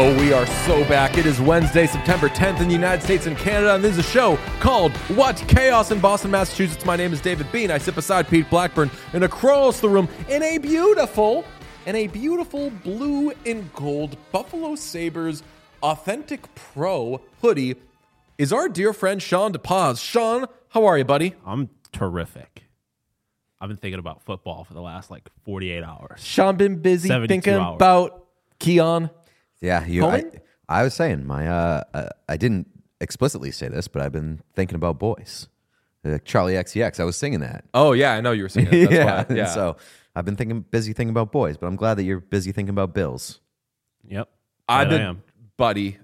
Oh, we are so back. It is Wednesday, September 10th in the United States and Canada, and this is a show called What Chaos in Boston, Massachusetts. My name is David Bean. I sit beside Pete Blackburn and across the room in a beautiful blue and gold Buffalo Sabres Authentic Pro hoodie is our dear friend Sean DePaz. Sean, how are you, buddy? I'm terrific. I've been thinking about football for the last 48 hours. Sean been busy 72 thinking hours. about Keon. Yeah, I was saying I didn't explicitly say this, but I've been thinking about boys. Charlie XCX, I was singing that. Oh yeah, I know you were singing. That's why. And so I've been busy thinking about boys, but I'm glad that you're busy thinking about Bills. Yep. I've I been, am. buddy.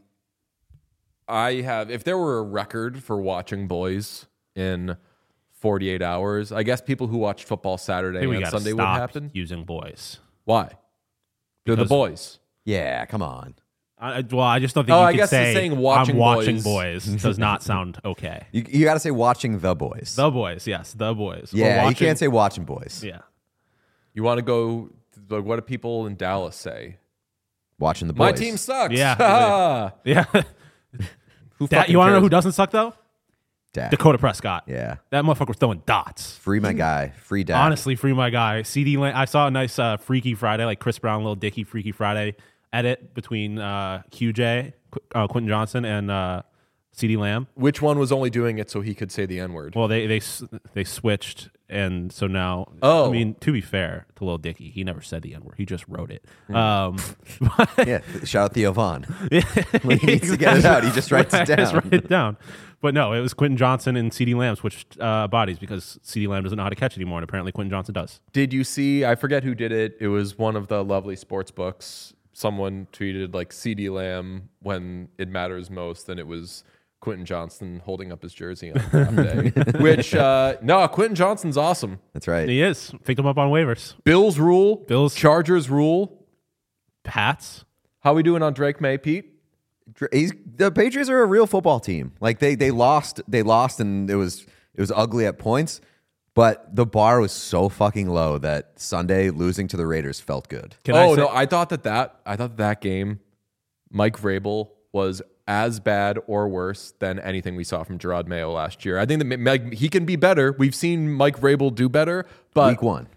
I have. If there were a record for watching boys in 48 hours, I guess people who watched football Saturday and Sunday would happen. Using boys. Why? They're the boys. Yeah, come on. I just don't think you I can guess say saying I'm watching watching boys does not sound okay. You got to say watching the boys. The boys, yes, the boys. Yeah, We're you can't say watching boys. Yeah. You want to go? What do people in Dallas say? Watching the boys. My team sucks. Yeah. Yeah. Who fucking You want to know cares? who doesn't suck, though? Dak. Dakota Prescott. Yeah. That motherfucker was throwing dots. Free my guy. Free Dak. Honestly, free my guy. CD Lamb. I saw a nice Freaky Friday, like Chris Brown, Lil Dicky Freaky Friday edit between QJ, Quentin Johnson, and CD Lamb. Which one was only doing it so he could say the N-word? Well, they switched, and so now. Oh. I mean, to be fair to Lil Dicky, he never said the N-word. He just wrote it. Yeah, shout out Theo Vaughn. When he needs to get it out, he just writes it Just down. write it down. But no, it was Quentin Johnson and CD Lamb switched bodies because CD Lamb doesn't know how to catch anymore, and apparently Quentin Johnson does. Did you see? I forget who did it. It was one of the lovely sports books. Someone tweeted CD Lamb when it matters most, and it was Quentin Johnson holding up his jersey on draft day. Which Quentin Johnson's awesome. That's right. He is. Picked him up on waivers. Bills rule. Bills. Chargers rule. Pats. How we doing on Drake May, Pete? The Patriots are a real football team. Like they lost, and it was ugly at points. But the bar was so fucking low that Sunday losing to the Raiders felt good. I thought that game, Mike Vrabel was as bad or worse than anything we saw from Gerard Mayo last year. I think that he can be better. We've seen Mike Vrabel do better, but Week 1.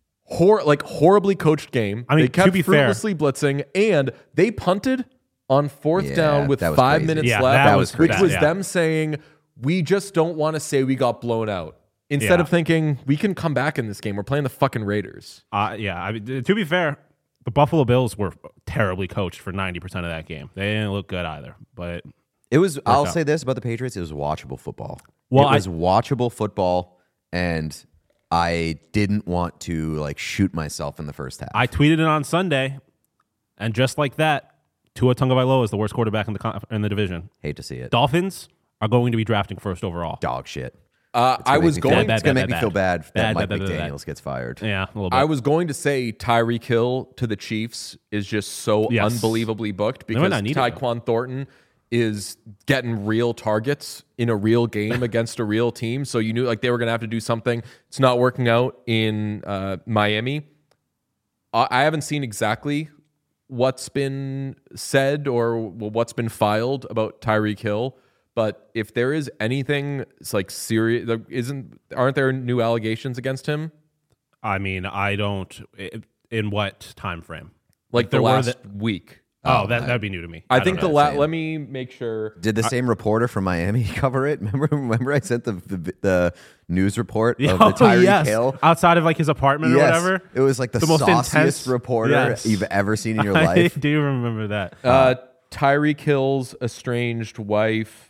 Horribly coached game. I mean, they kept to be fair, fruitlessly blitzing, and they punted on fourth down with that was 5 crazy. minutes Yeah, left, that was which crazy. was Yeah. them saying, we just don't want to say we got blown out. Instead of thinking, we can come back in this game. We're playing the fucking Raiders. I mean, to be fair, the Buffalo Bills were terribly coached for 90% of that game. They didn't look good either. But It was. I'll out. say this about the Patriots: it was watchable football. Well, it was watchable football, and I didn't want to shoot myself in the first half. I tweeted it on Sunday, and just like that, Tua Tagovailoa is the worst quarterback in the division. Hate to see it. Dolphins are going to be drafting first overall. Dog shit. I was going. It's gonna make me feel bad that Bad, Mike bad, bad, bad. McDaniels gets fired. Yeah, a little bit. I was going to say Tyreek Hill to the Chiefs is just so Yes. unbelievably booked might because not need it, Tyquan Thornton is getting real targets in a real game against a real team. So you knew they were going to have to do something. It's not working out in Miami. I haven't seen exactly what's been said or what's been filed about Tyreek Hill. But if there is anything serious, aren't there new allegations against him? I mean, I don't. In what time frame? The there were last week. Oh, that'd be new to me. I think don't the know. let me make sure. Did the same reporter from Miami cover it? Remember I sent the news report of the Tyreek Hill outside of his apartment or whatever. It was the most sauciest intense reporter you've ever seen in your life. I do remember that. Tyreek Hill's estranged wife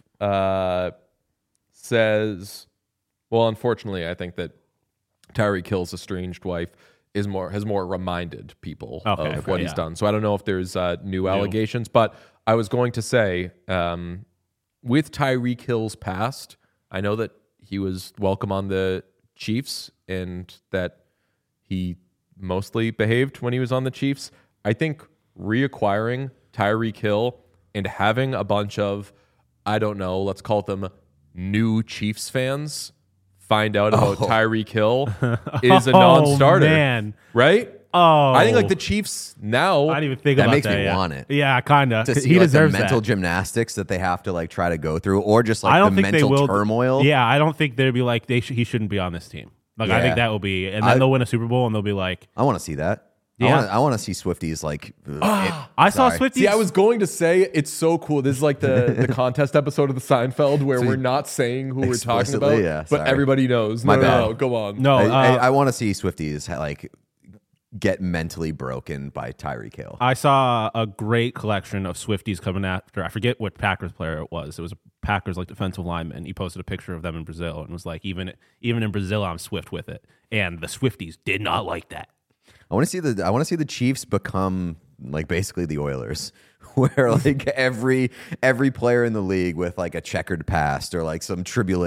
says, well, unfortunately, I think that Tyreek Hill's estranged wife has more reminded people of what he's done. So I don't know if there's new allegations, but I was going to say, with Tyreek Hill's past, I know that he was welcome on the Chiefs and that he mostly behaved when he was on the Chiefs. I think reacquiring Tyreek Hill and having a bunch of, I don't know, let's call them new Chiefs fans find out about Tyreek Hill is a non-starter. Man. Right? Oh, I think like the Chiefs now. I didn't even think That about makes that. me Yeah. want it. Yeah, kind of. To see He like, the deserves mental that. gymnastics that they have to like try to go through, or just like I the don't think they mental will. turmoil. Yeah, I don't think they'd be like he shouldn't be on this team. Like I Yeah. think that will be, and then they'll win a Super Bowl, and they'll be like, I want to see that. Yeah. I want to see Swifties like. I saw sorry. Swifties. See, I was going to say it's so cool. This is like the contest episode of the Seinfeld where we're not saying who we're talking Explicitly, about, yeah, but sorry. everybody knows. My No, bad. no, go on. No, I want to see Swifties like get mentally broken by Tyreek Hill. I saw a great collection of Swifties coming after. I forget what Packers player it was. It was a Packers like defensive lineman. He posted a picture of them in Brazil and was like, even in Brazil, I'm Swift with it. And the Swifties did not like that. I want to see the Chiefs become like basically the Oilers, where like every player in the league with like a checkered past or like some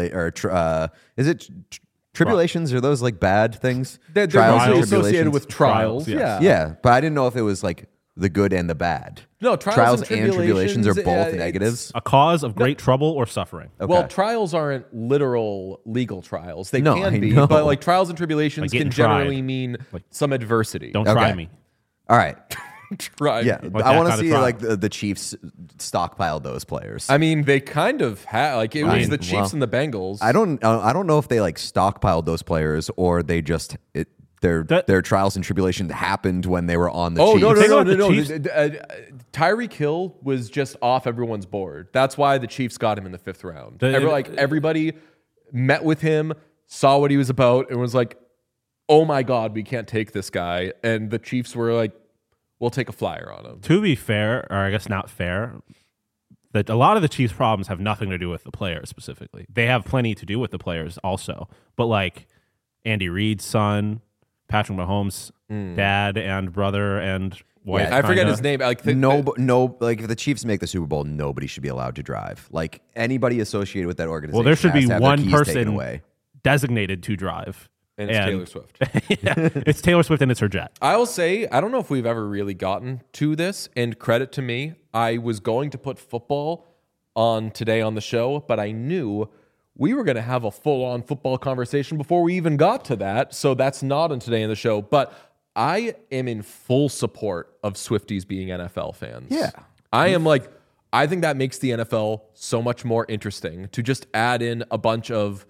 tribulations? Are those like bad things? They're Trials and mostly associated tribulations? with trials. Trials, Yeah, but I didn't know if it was like the good and the bad. No, trials and tribulations are both it's- negatives. A cause of great trouble or suffering. Okay. Well, trials aren't literal legal trials. They No, can I be, know. but like trials and tribulations Like can getting generally tried. mean Like, some adversity. Don't Okay. try me. All right. try. Yeah, Like I that want to kind of see trial. like the Chiefs stockpile those players. I mean, they kind of had like it was mean, the Chiefs well, and the Bengals. I don't know if they like stockpiled those players or they just their trials and tribulations happened when they were on the Oh Chiefs. no no Think no about no the no! Chiefs. Tyreek Hill was just off everyone's board. That's why the Chiefs got him in the 5th round. The- Everybody met with him, saw what he was about, and was like, "Oh my God, we can't take this guy." And the Chiefs were like, "We'll take a flyer on him." To be fair, or I guess not fair, that a lot of the Chiefs' problems have nothing to do with the players specifically. They have plenty to do with the players also. But like Andy Reid's son, Patrick Mahomes' dad and brother and wife. I forget kinda. his name. Like No, like if the Chiefs make the Super Bowl, nobody should be allowed to drive. Like anybody associated with that organization. Well, there should has be to have their one keys taken person away. designated to drive. and it's Taylor Swift. Yeah, it's Taylor Swift and it's her jet. I will say, I don't know if we've ever really gotten to this, and credit to me, I was going to put football on today on the show, but I knew we were going to have a full-on football conversation before we even got to that, so that's not on today in the show. But I am in full support of Swifties being NFL fans. Yeah. I am like, I think that makes the NFL so much more interesting to just add in a bunch of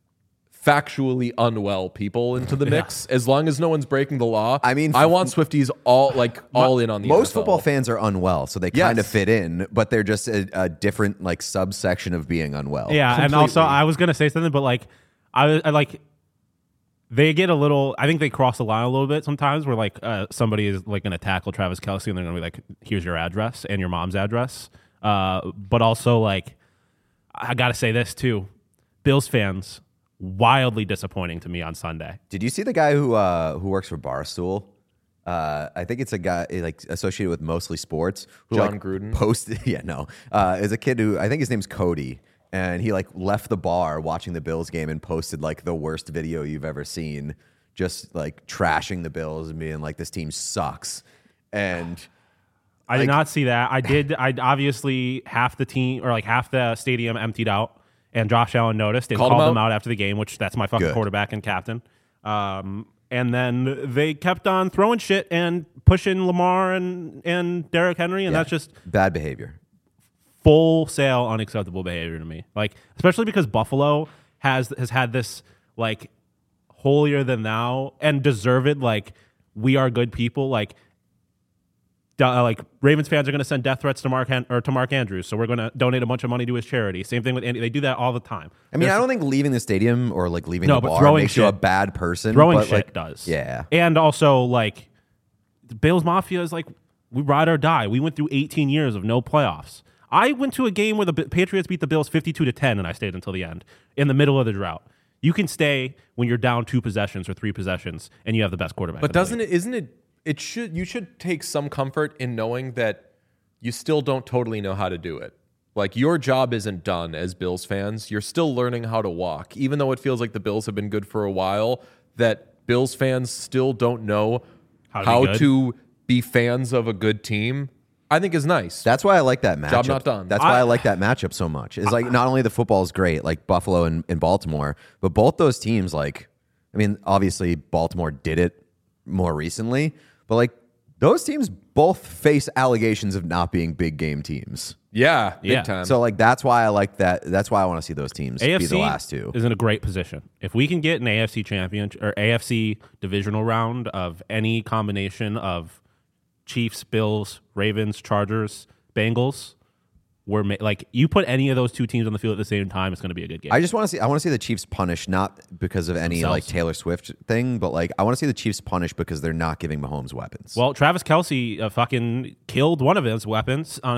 factually unwell people into the mix, as long as no one's breaking the law. I mean, I want Swifties all in on the Most NFL. football fans are unwell, so they kind of Yes. fit in, but they're just a different like subsection of being unwell. Yeah, and also I was gonna say something, but like I like they get a little. I think they cross the line a little bit sometimes, where like somebody is like gonna tackle Travis Kelce, and they're gonna be like, "Here's your address and your mom's address." But also like I gotta say this too, Bills fans wildly disappointing to me on Sunday. Did you see the guy who works for Barstool? I think it's a guy like associated with Mostly Sports. Who, John like, Gruden? Posted, yeah, no, is a kid who I think his name's Cody, and he like left the bar watching the Bills game and posted like the worst video you've ever seen, just like trashing the Bills and being like, this team sucks. And I did not see that. I obviously half the team or like half the stadium emptied out, and Josh Allen noticed and Called called him them out? out after the game, which that's my fucking Good. quarterback and captain. And then they kept on throwing shit and pushing Lamar and Derrick Henry, and that's just bad behavior. full sail unacceptable behavior to me. Like especially because Buffalo has had this like holier than thou and deserved like we are good people like Ravens fans are going to send death threats to Mark Andrews, so we're going to donate a bunch of money to his charity. Same thing with Andy. They do that all the time. I mean, I don't think leaving the stadium or like leaving No, the but bar throwing makes you a shit- bad person. Throwing but, shit like, does. Yeah. And also, like, the Bills Mafia is like, we ride or die. We went through 18 years of no playoffs. I went to a game where the Patriots beat the Bills 52-10, and I stayed until the end, in the middle of the drought. You can stay when you're down 2 possessions or 3 possessions, and you have the best quarterback. But in the doesn't league. it? Isn't it? You should take some comfort in knowing that you still don't totally know how to do it. Like your job isn't done as Bills fans. You're still learning how to walk, even though it feels like the Bills have been good for a while. That Bills fans still don't know how to be fans of a good team. I think is nice. That's why I like that matchup. Job not done. That's why I like that matchup so much. It's like not only the football is great, like Buffalo and Baltimore, but both those teams, like, I mean, obviously Baltimore did it more recently. But like those teams both face allegations of not being big game teams. Yeah, big time. So like that's why I like that. That's why I want to see those teams AFC be the last two. Is in a great position. If we can get an AFC championship or AFC divisional round of any combination of Chiefs, Bills, Ravens, Chargers, Bengals, like you put any of those two teams on the field at the same time, it's going to be a good game. I want to see the Chiefs punished, not because of any like Taylor Swift thing, but like I want to see the Chiefs punished because they're not giving Mahomes weapons. Well, Travis Kelce fucking killed one of his weapons on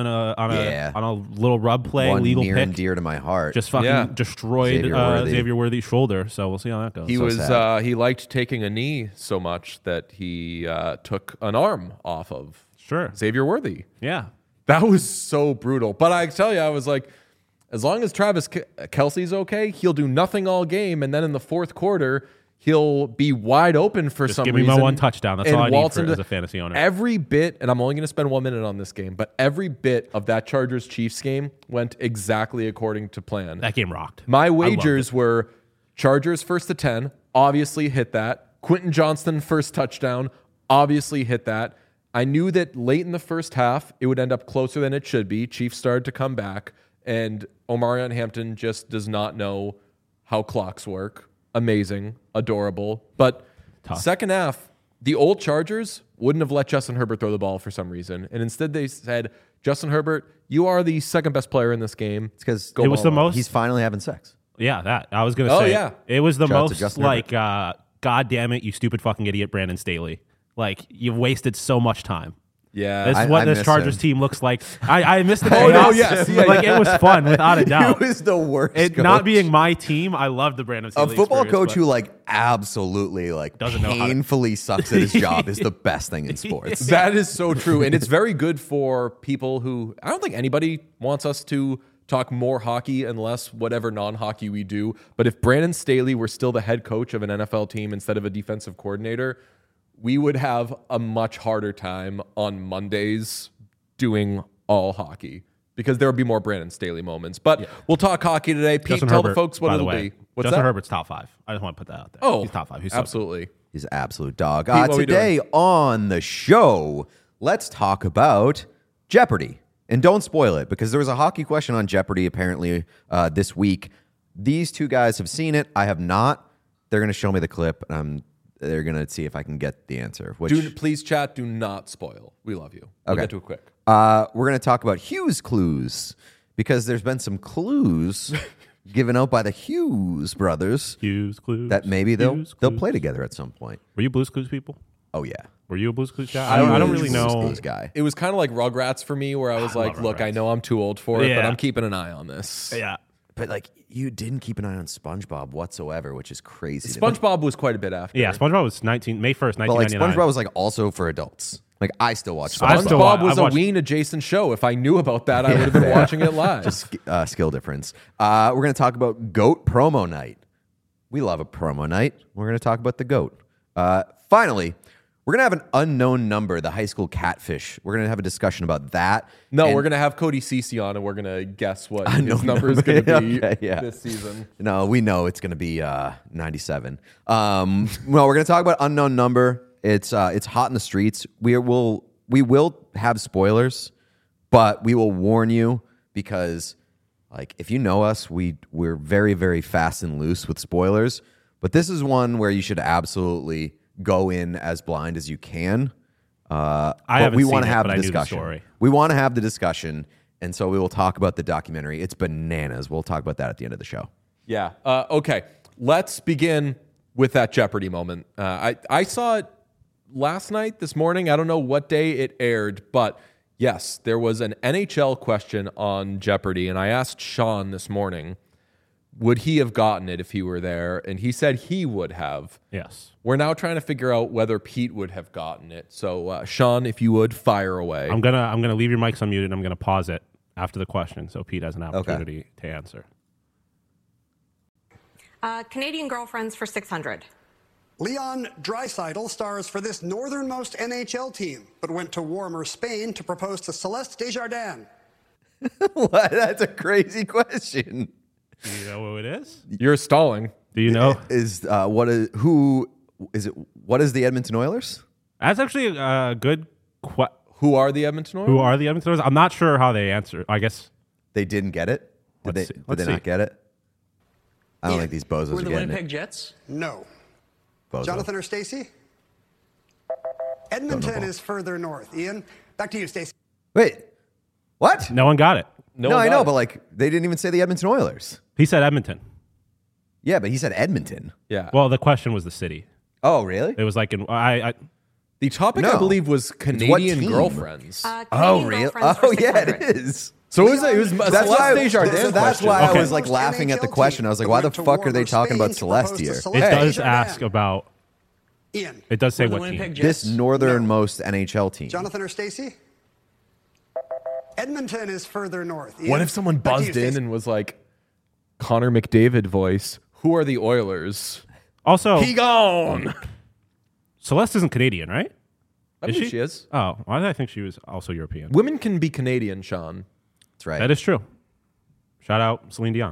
a little rub play, one legal near pick. And dear to my heart. Just fucking destroyed Xavier Worthy's shoulder. So we'll see how that goes. He liked taking a knee so much that he took an arm off of Xavier Worthy. Yeah. That was so brutal. But I tell you, I was like, as long as Travis Kelce's okay, he'll do nothing all game. And then in the fourth quarter, he'll be wide open for some reason. Give me my one touchdown. That's all I need as a fantasy owner. Every bit, and I'm only going to spend 1 minute on this game, but every bit of that Chargers-Chiefs game went exactly according to plan. That game rocked. My wagers were Chargers first to 10, obviously hit that. Quentin Johnston first touchdown, obviously hit that. I knew that late in the first half, it would end up closer than it should be. Chiefs started to come back, and Omarion Hampton just does not know how clocks work. Amazing, adorable. But second half, the old Chargers wouldn't have let Justin Herbert throw the ball for some reason. And instead they said, Justin Herbert, you are the second best player in this game. It's because it was the most. He's finally having sex. Yeah, that. I was going to say. Yeah. It was the most like, God damn it, you stupid fucking idiot, Brandon Staley. Like, you've wasted so much time. Yeah. This is what this Chargers team looks like. I missed the chaos. Oh, no, yes. Like, it was fun, without a doubt. It was the worst coach. Not being my team, I love the Brandon Staley A football coach who, like, absolutely, like, painfully sucks at his job is the best thing in sports. That is so true. And it's very good for people who, I don't think anybody wants us to talk more hockey and less whatever non-hockey we do. But if Brandon Staley were still the head coach of an NFL team instead of a defensive coordinator, we would have a much harder time on Mondays doing all hockey because there would be more Brandon Staley moments. But we'll talk hockey today. Pete, Justin tell Herbert, the folks what it'll be. What's Justin that? Herbert's top 5. I just want to put that out there. Oh, he's top 5. He's absolutely. He's an absolute dog. Pete, today on the show, let's talk about Jeopardy. And don't spoil it because there was a hockey question on Jeopardy apparently this week. These two guys have seen it. I have not. They're going to show me the clip. They're going to see if I can get the answer. Please, chat, do not spoil. We love you. We'll get to it quick. We're going to talk about Hughes clues because there's been some clues given out by the Hughes brothers. Hughes clues. That maybe they'll play together at some point. Were you Blues Clues people? Oh, yeah. Were you a Blues Clues guy? I don't really know. Blues guy. It was kind of like Rugrats for me where I was like, look, I know I'm too old for it, but I'm keeping an eye on this. Yeah. But like you didn't keep an eye on SpongeBob whatsoever, which is crazy. SpongeBob was quite a bit after. Yeah, SpongeBob was May 1st, 1999. But like SpongeBob was like also for adults. Like I still watch SpongeBob. SpongeBob was a Ween adjacent show. If I knew about that, I would have been watching it live. Just skill difference. We're going to talk about GOAT promo night. We love a promo night. We're going to talk about the GOAT. Finally, we're going to have an unknown number, the high school catfish. We're going to have a discussion about that. No, we're going to have Cody Cece on, and we're going to guess what his number is going to be this season. No, we know it's going to be 97. Well, we're going to talk about unknown number. It's hot in the streets. We will have spoilers, but we will warn you because, like, if you know us, we're very, very fast and loose with spoilers. But this is one where you should absolutely go in as blind as you can. We want to have the discussion. We want to have the discussion, and so we will talk about the documentary. It's bananas. We'll talk about that at the end of the show. Yeah. Okay. Let's begin with that Jeopardy moment. I saw it last night, this morning. I don't know what day it aired, but yes, there was an NHL question on Jeopardy, and I asked Sean this morning, would he have gotten it if he were there? And he said he would have. Yes. We're now trying to figure out whether Pete would have gotten it. So, Sean, if you would, fire away. I'm gonna leave your mics unmuted. And I'm gonna pause it after the question, so Pete has an opportunity to answer. Canadian girlfriends for 600. Leon Draisaitl stars for this northernmost NHL team, but went to warmer Spain to propose to Celeste Desjardins. What? That's a crazy question. Do you know who it is? You're stalling. Do you know? Who What is the Edmonton Oilers? That's actually a good question. Who are the Edmonton Oilers? Who are the Edmonton Oilers? I'm not sure how they answer. I guess They didn't get it? Did Let's they see. Let's not see. get it? I don't think these bozos Who are are the getting Winnipeg it. Jets? No. Bozo. Jonathan or Stacey? Edmonton is further north. Ian, back to you, Stacey. Wait, what? no one got it. No, one I got know, it. but like they didn't even say the Edmonton Oilers. He said Edmonton. Yeah, but he said Edmonton. Yeah. Well, the question was the city. Oh, really? It was like the topic, No. I believe, was Canadian team? girlfriends. Canadian girlfriends Oh, for yeah, 600. it is. So it was That's Celeste why, Desjardins so that's question. why I Okay. was like laughing at the question. I was like, why the fuck are they talking about Celeste here? it does ask about. Ian, It does say Who are the what Winnipeg team. Jets? This northernmost NHL team. Jonathan or Stacey? Edmonton is further north. Ian, What if someone back to you, buzzed in Stacey. and was like, Connor McDavid voice, who are the Oilers? Also, He gone. Celeste isn't Canadian, right? I Is believe she? she is. Oh, why did I think she was also European? Women can be Canadian, Sean. That's right. That is true. Shout out Celine Dion.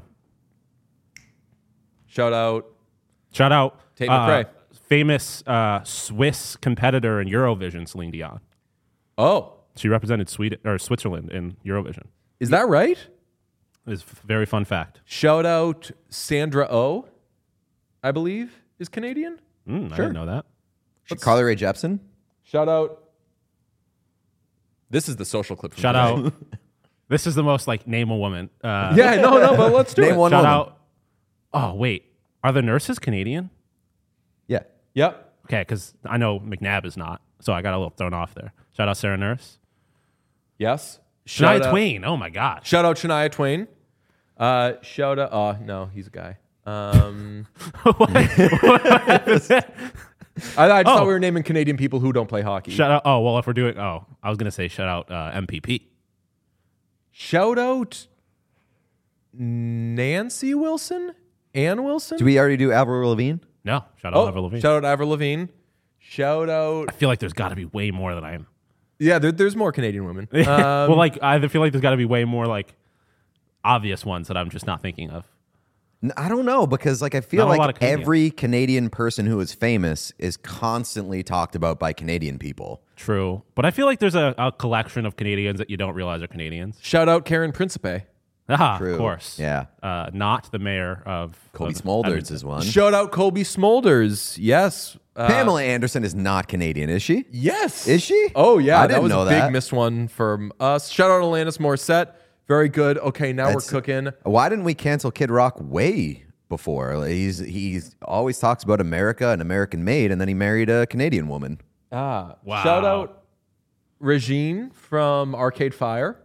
Shout out. Shout out Tate McRae. famous Swiss competitor in Eurovision, Celine Dion. Oh, She represented Sweden or Switzerland in Eurovision. is that right? It's a very fun fact. Shout out Sandra Oh, I believe, is Canadian. I didn't know that. Carly Rae Jepsen. Shout out. This is the social clip. From Shout today. out. This is the most like name a woman. Yeah, no, but let's do Name it. one Shout woman. out. Oh wait, are the nurses Canadian? Yeah. Yep. Okay, because I know McNabb is not, so I got a little thrown off there. Shout out Sarah Nurse. Yes. Shania Shout out- Twain. Oh my gosh. Shout out Shania Twain. Shout out. Oh no, he's a guy. I just thought we were naming Canadian people who don't play hockey. Shout out. Oh well, if we're doing. Oh, I was gonna say shout out MPP. Shout out Nancy Wilson, Ann Wilson. Did we already do Avril Lavigne? No, shout out Avril Lavigne. Shout out Avril Lavigne. Shout out. I feel like there's got to be way more than I am. Yeah, there's more Canadian women. Well, like I feel like there's got to be way more like obvious ones that I'm just not thinking of. I don't know, because like I feel Not a lot like of Canadians. every Canadian person who is famous is constantly talked about by Canadian people. True, but I feel like there's a collection of Canadians that you don't realize are Canadians. Shout out Karen Principe. Ah, True. of course. Yeah. Not the mayor of Colby of Smulders Edmonton. is one. Shout out Colby Smulders. Yes. Pamela Anderson is not Canadian, is she? Yes. Is she? Oh yeah, I that didn't was know a big that. missed one from us. Shout out Alanis Morissette. Very good. Okay, now That's- we're cooking. Why didn't we cancel Kid Rock way before? Like, he's always talks about America and American made, and then he married a Canadian woman. Wow. Shout out Regine from Arcade Fire.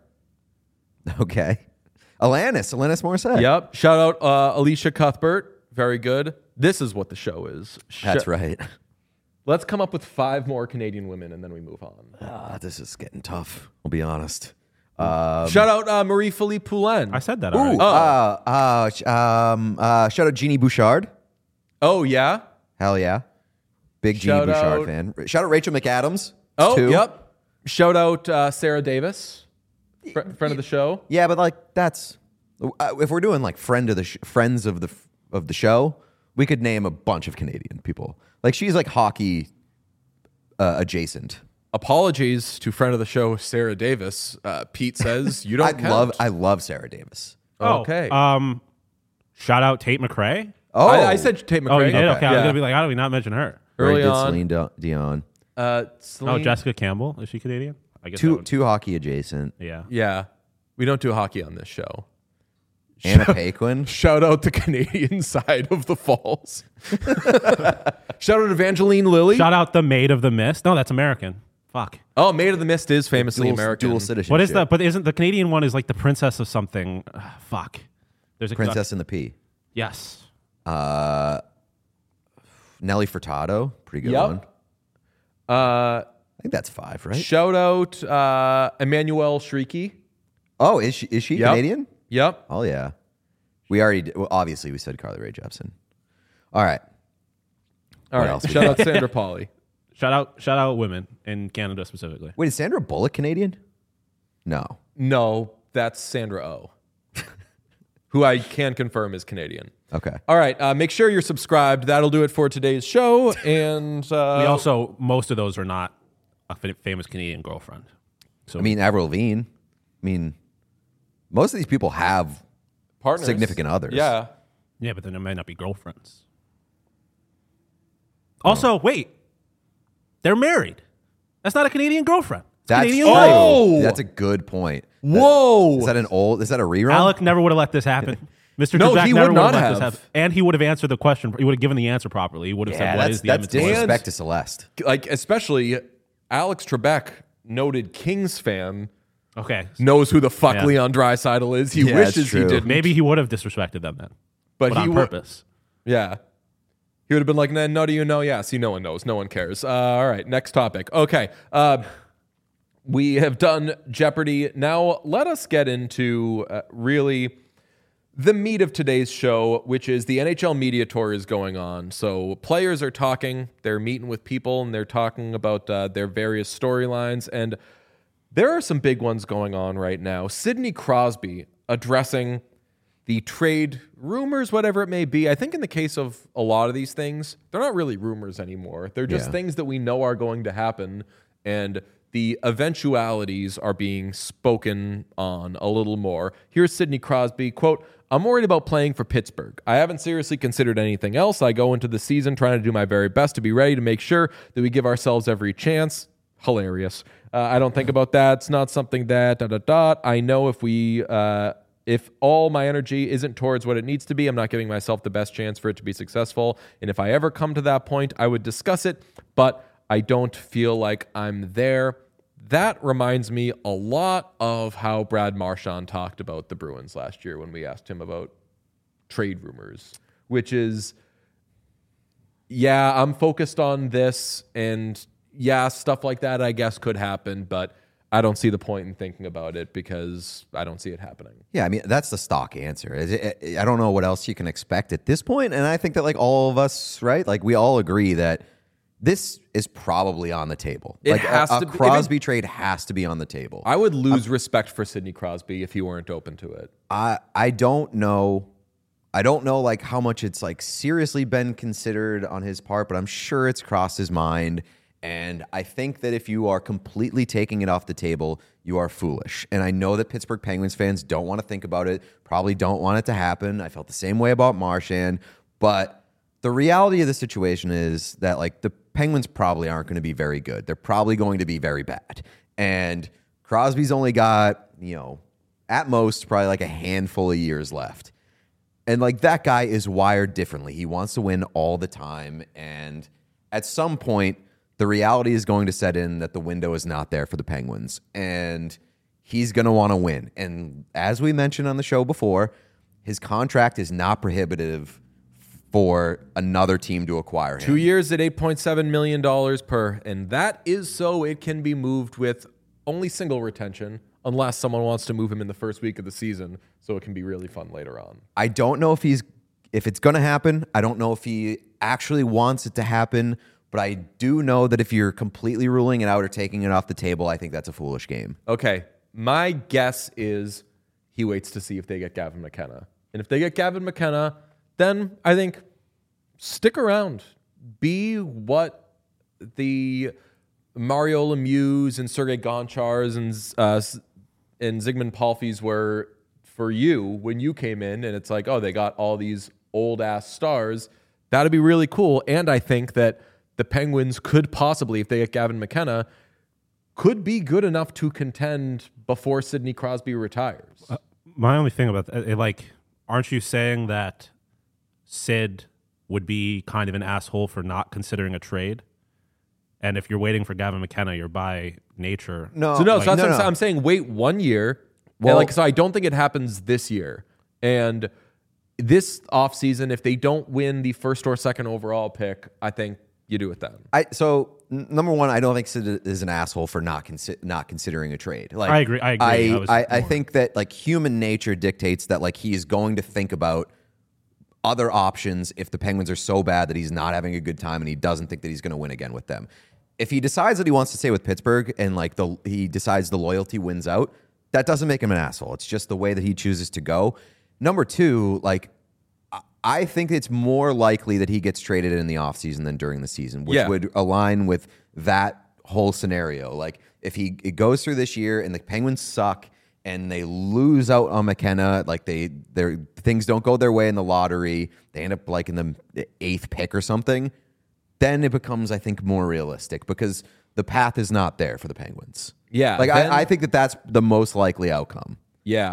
Okay. Alanis Morissette. Yep. Shout out Alicia Cuthbert. Very good. This is what the show is. That's right. Let's come up with 5 more Canadian women and then we move on. This is getting tough. I'll be honest. Shout out Marie-Philippe Poulin. I said that Ooh, already. shout out Jeannie Bouchard. Oh, yeah. Hell yeah. Big Jeannie Shout Bouchard out- fan. Shout out Rachel McAdams. Oh, too. yep. Shout out Sarah Davis, friend of the show. Yeah, but like that's if we're doing like friends of the show, we could name a bunch of Canadian people. Like she's like hockey adjacent. Apologies to friend of the show, Sarah Davis. Pete says you don't count. I love Sarah Davis. Okay. Shout out Tate McRae. Oh, I said Tate McRae. Oh, you did? Okay, I was Yeah. gonna be like, how do we not mention her? very Early good on. Celine Dion. Oh, Celine- Jessica Campbell. Is she Canadian? I guess. that would- Two hockey adjacent. Yeah. Yeah. We don't do hockey on this show. Anna Paquin. Shout out the Canadian side of the Falls. Shout out Evangeline Lilly. Shout out the Maid of the Mist. No, that's American. Fuck. Oh, Maid of the Mist is famously American. Dual citizenship. What is that? But isn't the Canadian one is like the princess of something? Fuck. There's a Princess and the Pea. Yes. Nelly Furtado. Pretty good Yep. one. I think that's 5, right? Shout out Emmanuel Shrieky. Oh, is she Yep. Canadian? Yep. Oh yeah. We already did, well, obviously we said Carly Rae Jepsen. All right. All right. else we Shout out Sandra Pauly. Shout out women in Canada specifically. Wait, is Sandra Bullock Canadian? No. No, that's Sandra Oh, who I can confirm is Canadian. Okay. All right. Make sure you're subscribed. That'll do it for today's show. And We also, most of those are not a famous Canadian girlfriend. So I mean, Avril Lavigne. I mean, most of these people have partners, significant others. Yeah. yeah, but then it might not be girlfriends. Also, wait, they're married. That's not a Canadian girlfriend. It's a Canadian true. wife. Oh! That's a good point. Whoa. Is that a rerun? Alec never would have let this happen. Mr. No, Trebek he never would would have not let this have. happen. And he would have answered the question. He would have given the answer properly. He would have said, what is the that's Edmonton Oilers? disrespect to Celeste. Like, especially Alex Trebek, noted Kings fan, Okay. knows who the fuck Yeah. Leon Draisaitl is. He Yeah, wishes it's he true. didn't. Maybe he would have disrespected them then. But he on would- purpose. Yeah. He would have been like, no, do you know? Yeah, see, no one knows. No one cares. All right, next topic. Okay. We have done Jeopardy. Now, let us get into really the meat of today's show, which is the NHL media tour is going on. So players are talking, they're meeting with people, and they're talking about their various storylines. And there are some big ones going on right now. Sidney Crosby addressing the trade rumors, whatever it may be. I think in the case of a lot of these things, they're not really rumors anymore. They're just things that we know are going to happen, and the eventualities are being spoken on a little more. Here's Sidney Crosby, quote, "I'm worried about playing for Pittsburgh. I haven't seriously considered anything else. I go into the season trying to do my very best to be ready to make sure that we give ourselves every chance." Hilarious. I don't think about that. It's not something that, ... I know if all my energy isn't towards what it needs to be, I'm not giving myself the best chance for it to be successful. And if I ever come to that point, I would discuss it, but I don't feel like I'm there. That reminds me a lot of how Brad Marchand talked about the Bruins last year when we asked him about trade rumors, which is, yeah, I'm focused on this, and yeah, stuff like that I guess could happen, but I don't see the point in thinking about it because I don't see it happening. Yeah, I mean, that's the stock answer. I don't know what else you can expect at this point, and I think that, like, all of us, right? Like, we all agree that this is probably on the table. It like, has a to be. Crosby trade has to be on the table. I would lose respect for Sidney Crosby if he weren't open to it. I don't know. I don't know, like, how much it's, like, seriously been considered on his part, but I'm sure it's crossed his mind. And I think that if you are completely taking it off the table, you are foolish. And I know that Pittsburgh Penguins fans don't want to think about it, probably don't want it to happen. I felt the same way about Marchand. But the reality of the situation is that, like, the Penguins probably aren't going to be very good. They're probably going to be very bad. And Crosby's only got, at most, probably like a handful of years left. And, like, that guy is wired differently. He wants to win all the time. And at some point, the reality is going to set in that the window is not there for the Penguins, and he's going to want to win. And as we mentioned on the show before, his contract is not prohibitive for another team to acquire him. 2 years at $8.7 million per, and that is so it can be moved with only single retention unless someone wants to move him in the first week of the season, so it can be really fun later on. I don't know if it's going to happen. I don't know if he actually wants it to happen. But I do know that if you're completely ruling it out or taking it off the table, I think that's a foolish game. Okay, my guess is he waits to see if they get Gavin McKenna. And if they get Gavin McKenna, then I think stick around. Be what the Mario Lemieux and Sergei Gonchars and Zygmunt Palfys were for you when you came in. And it's like, oh, they got all these old-ass stars. That'd be really cool. And I think that the Penguins could possibly, if they get Gavin McKenna, could be good enough to contend before Sidney Crosby retires. My only thing about that, aren't you saying that Sid would be kind of an asshole for not considering a trade? And if you're waiting for Gavin McKenna, you're by nature. No, So that's what I'm saying. Wait 1 year. Well, so I don't think it happens this year. And this offseason, if they don't win the first or second overall pick, I think you do it then. Number one, I don't think Sid is an asshole for not considering a trade. Like, I agree. I think that, like, human nature dictates that, like, he is going to think about other options if the Penguins are so bad that he's not having a good time and he doesn't think that he's going to win again with them. If he decides that he wants to stay with Pittsburgh and, like, he decides the loyalty wins out, that doesn't make him an asshole. It's just the way that he chooses to go. Number two, like, I think it's more likely that he gets traded in the offseason than during the season, which would align with that whole scenario. Like if it goes through this year and the Penguins suck and they lose out on McKenna, like their things don't go their way in the lottery, they end up like in the 8th pick or something, then it becomes, I think, more realistic because the path is not there for the Penguins. Yeah. Like I think that's the most likely outcome. Yeah.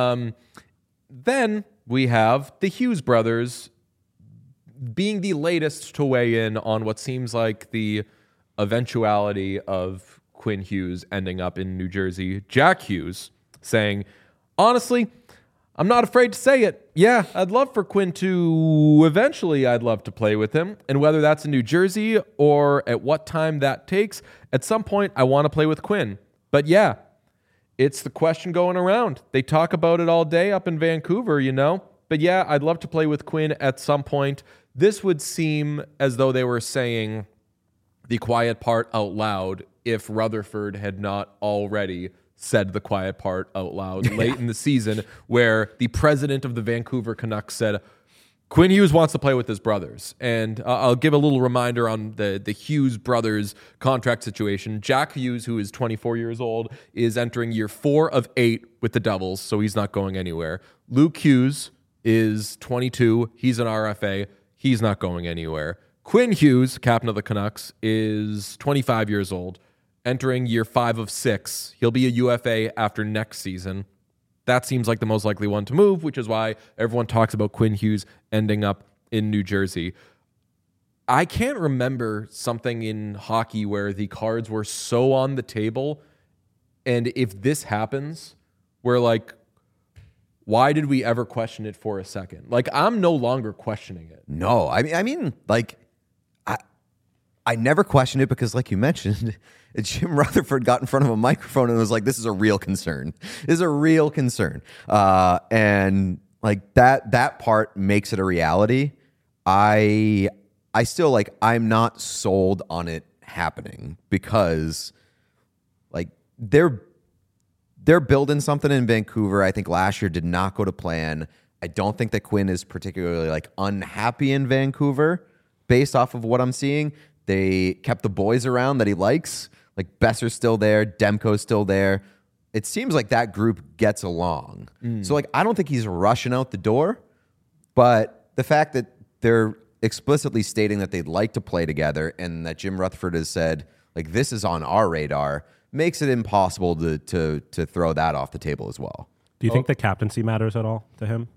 Then we have the Hughes brothers being the latest to weigh in on what seems like the eventuality of Quinn Hughes ending up in New Jersey. Jack Hughes saying, honestly, I'm not afraid to say it. Yeah, I'd love for Quinn to eventually, I'd love to play with him. And whether that's in New Jersey or at what time that takes, at some point I want to play with Quinn. But yeah, it's the question going around. They talk about it all day up in Vancouver, you know? But yeah, I'd love to play with Quinn at some point. This would seem as though they were saying the quiet part out loud if Rutherford had not already said the quiet part out loud late in the season, where the president of the Vancouver Canucks said, Quinn Hughes wants to play with his brothers. And I'll give a little reminder on the Hughes brothers contract situation. Jack Hughes, who is 24 years old, is entering year 4 of 8 with the Devils, so he's not going anywhere. Luke Hughes is 22. He's an RFA. He's not going anywhere. Quinn Hughes, captain of the Canucks, is 25 years old, entering year 5 of 6. He'll be a UFA after next season. That seems like the most likely one to move, which is why everyone talks about Quinn Hughes ending up in New Jersey. I can't remember something in hockey where the cards were so on the table, and if this happens, we're like, why did we ever question it for a second? Like, I'm no longer questioning it. No, I mean, like, I never questioned it because, like you mentioned, Jim Rutherford got in front of a microphone and was like, this is a real concern. This is a real concern. And like that part makes it a reality. I still like, I'm not sold on it happening because like they're building something in Vancouver. I think last year did not go to plan. I don't think that Quinn is particularly like unhappy in Vancouver based off of what I'm seeing. They kept the boys around that he likes. Like Besser's still there. Demko's still there. It seems like that group gets along. So like, I don't think he's rushing out the door, but the fact that they're explicitly stating that they'd like to play together and that Jim Rutherford has said, like, this is on our radar, makes it impossible to throw that off the table as well. Do you think the captaincy matters at all to him?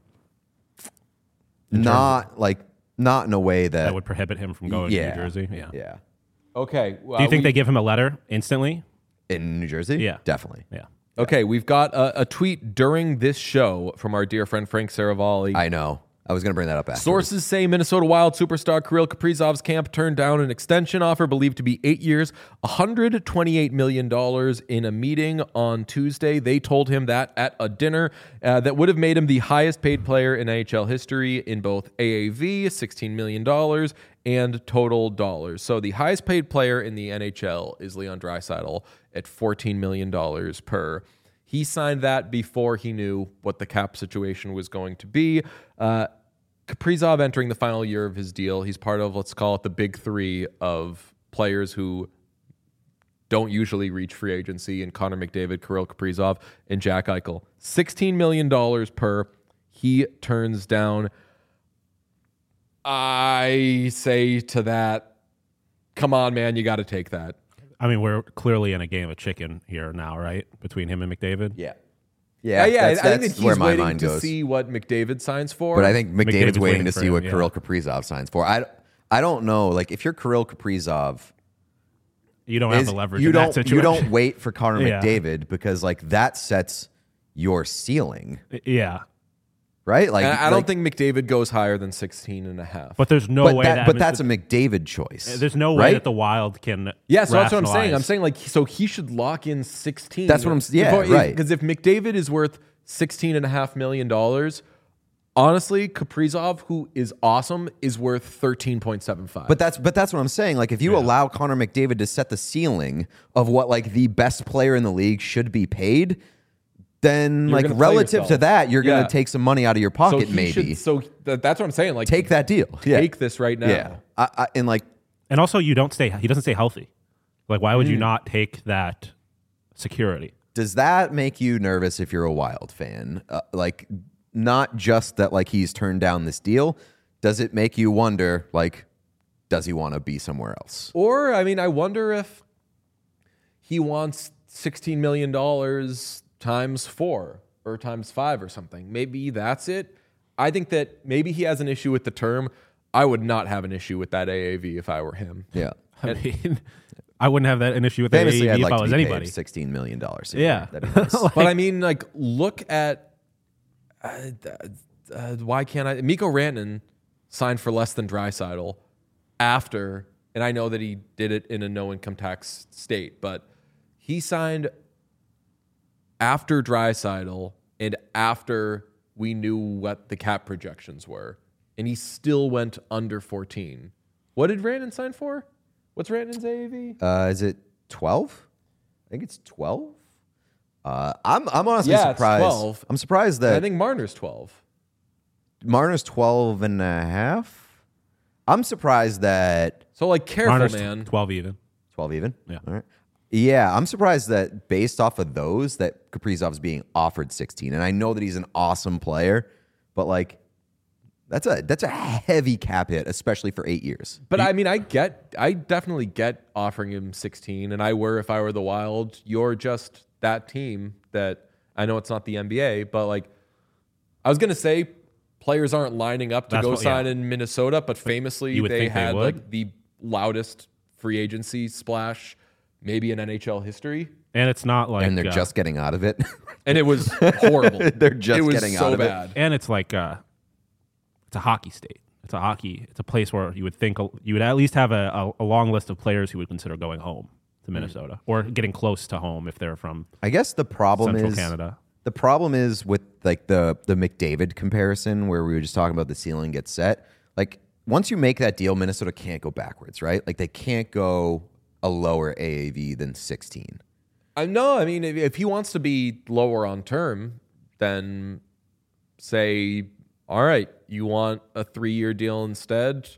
Not in a way that would prohibit him from going to New Jersey. Yeah. Okay. Do you think they give him a letter instantly? In New Jersey? Yeah. Definitely. Yeah. Okay, we've got a tweet during this show from our dear friend Frank Saravalli. I know. I was going to bring that up after. Sources say Minnesota Wild superstar Kirill Kaprizov's camp turned down an extension offer believed to be 8 years, $128 million in a meeting on Tuesday. They told him that at a dinner that would have made him the highest paid player in NHL history in both AAV, $16 million, and total dollars. So the highest paid player in the NHL is Leon Draisaitl at $14 million per. He signed that before he knew what the cap situation was going to be. Kaprizov entering the final year of his deal. He's part of, let's call it, the big three of players who don't usually reach free agency in Connor McDavid, Kirill Kaprizov, and Jack Eichel. $16 million per. He turns down. I say to that, come on, man, you got to take that. I mean, we're clearly in a game of chicken here now, right? Between him and McDavid? Yeah. I think that he's waiting to see what McDavid signs for. But I think McDavid's waiting to see what Kirill Kaprizov signs for. I don't know. Like, if you're Kirill Kaprizov, you don't have the leverage in that situation. You don't wait for Connor McDavid because, like, that sets your ceiling. Yeah. Right? Like, I don't think McDavid goes higher than 16.5. But there's no way but that's a McDavid choice. There's no way that the Wild can. Yeah, so that's what I'm saying. I'm saying, like, so he should lock in 16. That's what I'm saying. Right. Because if McDavid is worth $16.5 million, honestly, Kaprizov, who is awesome, is worth 13.75. But that's what I'm saying. Like, if you allow Connor McDavid to set the ceiling of what, like, the best player in the league should be paid, then You're like gonna play relative yourself. to that, you're going Yeah. to take some money out of your pocket, maybe. That's what I'm saying. Like, Take that deal. Yeah. Take this right now. Yeah. And like, And also, he doesn't stay healthy. Like, why would you not take that security? does that make you nervous if you're a Wild fan? Like, not just that, like, he's turned down this deal. Does it make you wonder, like, does he want to be somewhere else? Or, I mean, I wonder if he wants $16 million times 4 or times 5 or something. Maybe that's it. I think that maybe he has an issue with the term. I would not have an issue with that AAV if I were him. Yeah. I mean, I wouldn't have an issue with that Famously, I'd AAV like if I to was be anybody. paid $16 million. Yeah. That'd be nice. But I mean, like, look at why can't I? Mikko Rantanen signed for less than Draisaitl after, and I know that he did it in a no income tax state, but he signed after Draisaitl and after we knew what the cap projections were, and he still went under 14. What did Rantanen sign for? What's Rantanen's AAV? Is it 12? I think it's 12. I'm honestly Yeah, it's surprised. 12. I'm surprised I that think Marner's 12. Marner's 12 and a half. I'm surprised that So, like, careful, Marner's man. 12 even. 12 even. Yeah. All right. Yeah, I'm surprised that based off of those that Kaprizov's being offered 16. And I know that he's an awesome player, but like that's a heavy cap hit, especially for 8 years. But I mean, I definitely get offering him 16, and if I were the Wild, you're just that team that I know it's not the NBA, but like I was gonna say, players aren't lining up to sign in Minnesota, but famously you would they think they had would. like the loudest free agency splash maybe in NHL history, And it's not like... And they're just getting out of it. and it was horrible. They're just it was getting so out of it. bad. And it's like... it's a hockey state. It's a place where you would think you would at least have a long list of players who would consider going home to Minnesota or getting close to home if they're from I guess the problem Central is Canada. The problem is with like the McDavid comparison where we were just talking about the ceiling gets set. Like once you make that deal, Minnesota can't go backwards, right? Like they can't go a lower AAV than 16. No, I mean, if he wants to be lower on term, then say, all right, you want a 3-year deal instead,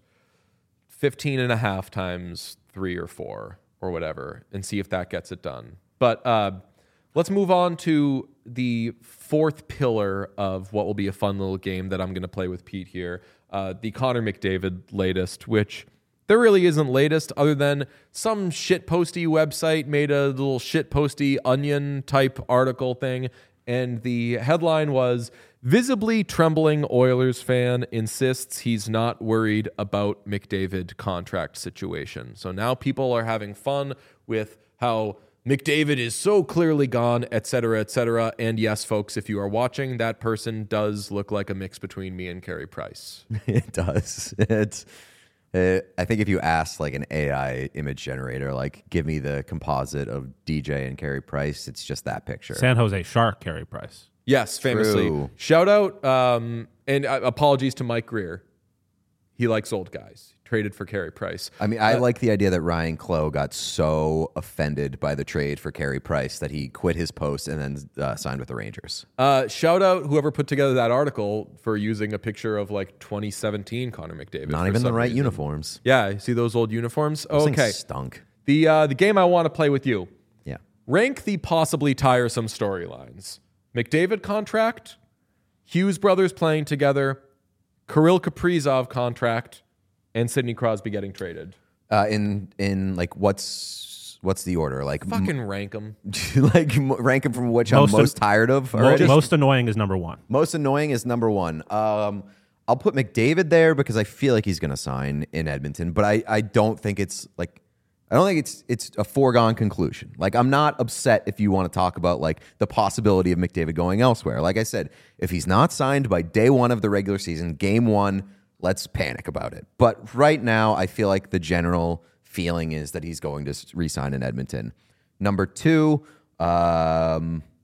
15 and a half times 3 or 4 or whatever, and see if that gets it done. But let's move on to the fourth pillar of what will be a fun little game that I'm going to play with Pete here. The Connor McDavid latest, which there really isn't latest other than some shitposty website made a little shitposty Onion type article thing. And the headline was, visibly trembling Oilers fan insists he's not worried about McDavid contract situation. So now people are having fun with how McDavid is so clearly gone, et cetera, et cetera. And yes, folks, if you are watching, that person does look like a mix between me and Carey Price. It does. I think if you ask like an AI image generator, like give me the composite of DJ and Carey Price, it's just that picture. San Jose Shark Carey Price. Yes, famously. True. Shout out, and apologies to Mike Greer. He likes old guys. Traded for Carey Price. I mean, I like the idea that Ryan Clough got so offended by the trade for Carey Price that he quit his post and then signed with the Rangers. Shout out whoever put together that article for using a picture of like 2017 Connor McDavid. Not for even the some right reason. uniforms. Yeah, see those old uniforms? Those things Okay. stunk. The game I want to play with you. Yeah. Rank the possibly tiresome storylines. McDavid contract, Hughes brothers playing together, Kirill Kaprizov contract, and Sidney Crosby getting traded. In like what's the order? Like Fucking rank them. like rank them from which I'm most tired of. already? Most annoying is number one. Most annoying is number one. I'll put McDavid there because I feel like he's going to sign in Edmonton, but I don't think it's like I don't think it's a foregone conclusion. Like I'm not upset if you want to talk about like the possibility of McDavid going elsewhere. Like I said, if he's not signed by day one of the regular season, game one, let's panic about it. But right now, I feel like the general feeling is that he's going to re-sign in Edmonton. Number two, I'll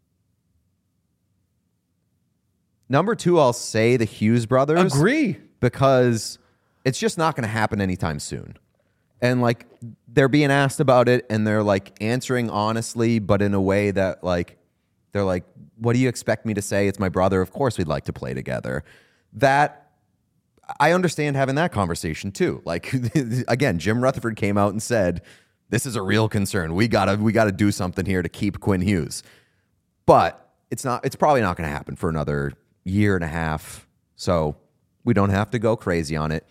say the Hughes brothers. Agree. Because it's just not going to happen anytime soon. And like they're being asked about it and they're like answering honestly, but in a way that like They're like, what do you expect me to say? It's my brother. Of course we'd like to play together. That, I understand having that conversation too. Like, again, Jim Rutherford came out and said, this is a real concern. We gotta do something here to keep Quinn Hughes. But it's probably not going to happen for another year and a half. So we don't have to go crazy on it.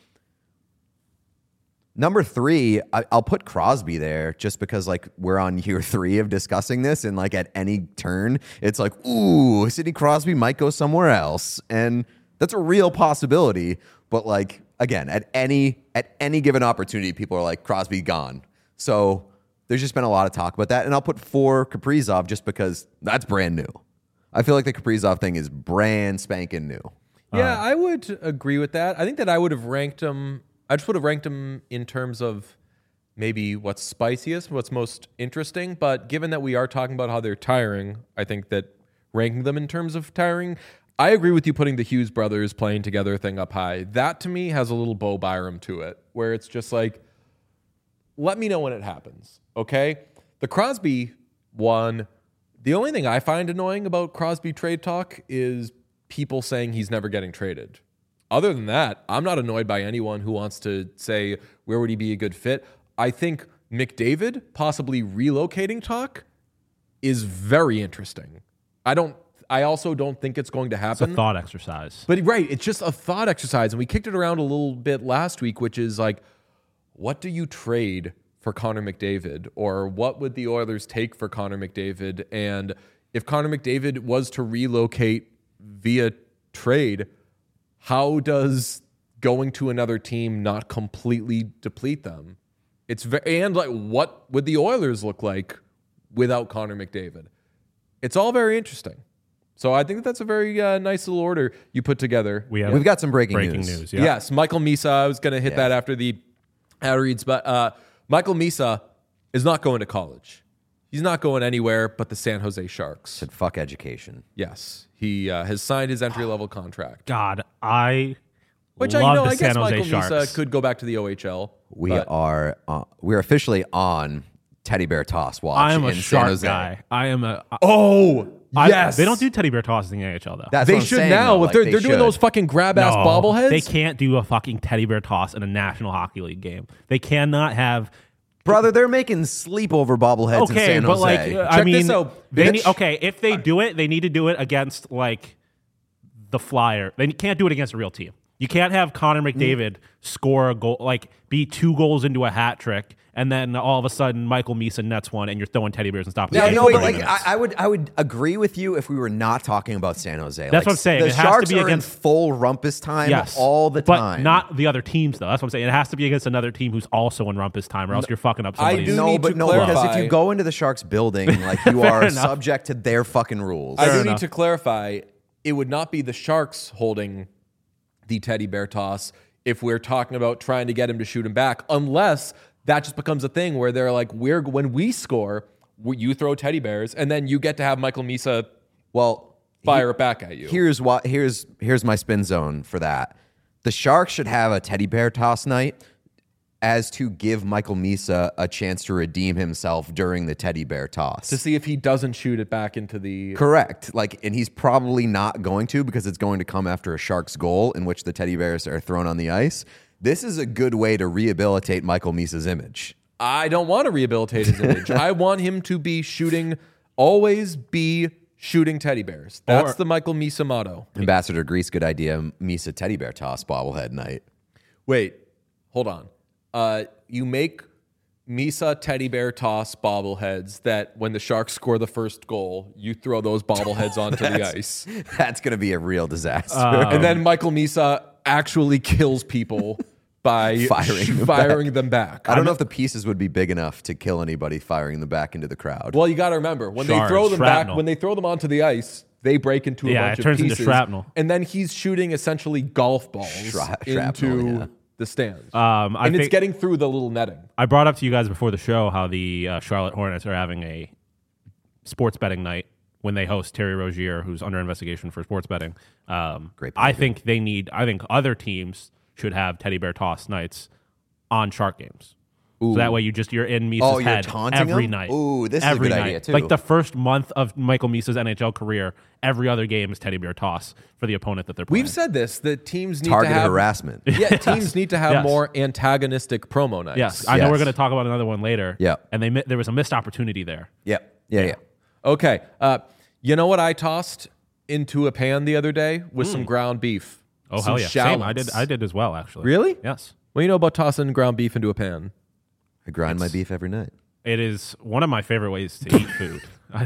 Number 3, I'll put Crosby there just because, like, we're on year 3 of discussing this, and, like, at any turn, it's like, ooh, Sidney Crosby might go somewhere else, and that's a real possibility. But, like, again, at any given opportunity, people are like, Crosby gone. So there's just been a lot of talk about that, and I'll put 4 Kaprizov just because that's brand new. I feel like the Kaprizov thing is brand spanking new. Yeah, I would agree with that. I think that I would have ranked him. I just would have ranked him in terms of maybe what's spiciest, what's most interesting. But given that we are talking about how they're tiring, I think that ranking them in terms of tiring, I agree with you putting the Hughes brothers playing together thing up high. That to me has a little Bo Byram to it, where it's just like, let me know when it happens, okay? The Crosby one, the only thing I find annoying about Crosby trade talk is people saying he's never getting traded. Other than that, I'm not annoyed by anyone who wants to say, where would he be a good fit? I think McDavid possibly relocating talk is very interesting. I also don't think it's going to happen. It's a thought exercise. But right, it's just a thought exercise. And we kicked it around a little bit last week, which is like, what do you trade for Connor McDavid? Or what would the Oilers take for Connor McDavid? And if Connor McDavid was to relocate via trade, how does going to another team not completely deplete them? And like, what would the Oilers look like without Connor McDavid? It's all very interesting. So I think that's a very nice little order you put together. We've got some breaking news. Yeah. Yes, Michael Misa. I was going to hit that after the ad reads, but Michael Misa is not going to college. He's not going anywhere but the San Jose Sharks. Said fuck education. Yes, he has signed his entry-level contract. God, I Which love the I guess San Jose Michael Sharks. Misa could go back to the OHL. We're officially on Teddy Bear Toss watch. I am a in San Shark Jose. guy. I am a. Yes, They don't do teddy bear tosses in the AHL though. That's they what I'm should saying, now. though. If Like, they're they doing should. those fucking grab ass bobbleheads, They can't do a fucking teddy bear toss in a National Hockey League game. They cannot have. Brother, they're making sleepover bobbleheads in Okay, San but Jose. like, I Check mean, this out, they bitch. need, okay, if they do it, they need to do it against like the Flyer. They can't do it against a real team. You can't have Connor McDavid score a goal, like be 2 goals into a hat trick, and then all of a sudden Michael Misa nets one, and you're throwing teddy bears and stopping. Yeah, the game no, for but 30 like minutes. I would agree with you if we were not talking about San Jose. That's what I'm saying. The It has to Sharks be are against- in full rumpus time Yes, all the but time. not the other teams though. That's what I'm saying. It has to be against another team who's also in rumpus time, or else you're fucking up I somebody's. do no, need but to no, because if clarify- you go into the Sharks building, like you are enough. subject to their fucking rules. I do enough. need to clarify. It would not be the Sharks holding the teddy bear toss if we're talking about trying to get him to shoot him back, unless that just becomes a thing where they're like, when we score, you throw teddy bears, and then you get to have Michael Misa fire it back at you. Here's my spin zone for that. The Sharks should have a teddy bear toss night as to give Michael Misa a chance to redeem himself during the teddy bear toss. to see if he doesn't shoot it back into the... Correct. And he's probably not going to, because it's going to come after a Sharks goal in which the teddy bears are thrown on the ice. This is a good way to rehabilitate Michael Misa's image. I don't want to rehabilitate his image. I want him to be always be shooting teddy bears. That's the Michael Misa motto. Ambassador Grease, good idea. Misa teddy bear toss bobblehead night. Wait, hold on. You make Misa teddy bear toss bobbleheads that when the Sharks score the first goal, you throw those bobbleheads onto the ice. That's going to be a real disaster. And then Michael Misa actually kills people by firing them back. I don't know if the pieces would be big enough to kill anybody firing them back into the crowd. Well, you got to remember, when they Shards, throw them shrapnel. back, when they throw them onto the ice, they break into a bunch it turns of into pieces. shrapnel. And then he's shooting essentially golf balls Shrapnel, into yeah. the stands. I and it's think- getting through the little netting. I brought up to you guys before the show how the Charlotte Hornets are having a sports betting night when they host Terry Rozier, who's under investigation for sports betting. Great I think other teams should have teddy bear toss nights on Shark games. So that way you're in Misa's head every night. Ooh, this is a good idea too. Like the first month of Michael Misa's NHL career, every other game is teddy bear toss for the opponent that they're playing. We've said this, that teams need Targeted to have harassment. Yeah, teams need to have more antagonistic promo nights. Yes, I know we're going to talk about another one later. Yeah. And there was a missed opportunity there. Yeah. Okay. You know what I tossed into a pan the other day with some ground beef? Oh, some hell yeah. Same. shallots. I did as well, actually. Really? Yes. What do you know about tossing ground beef into a pan? I grind my beef every night. It is one of my favorite ways to eat food.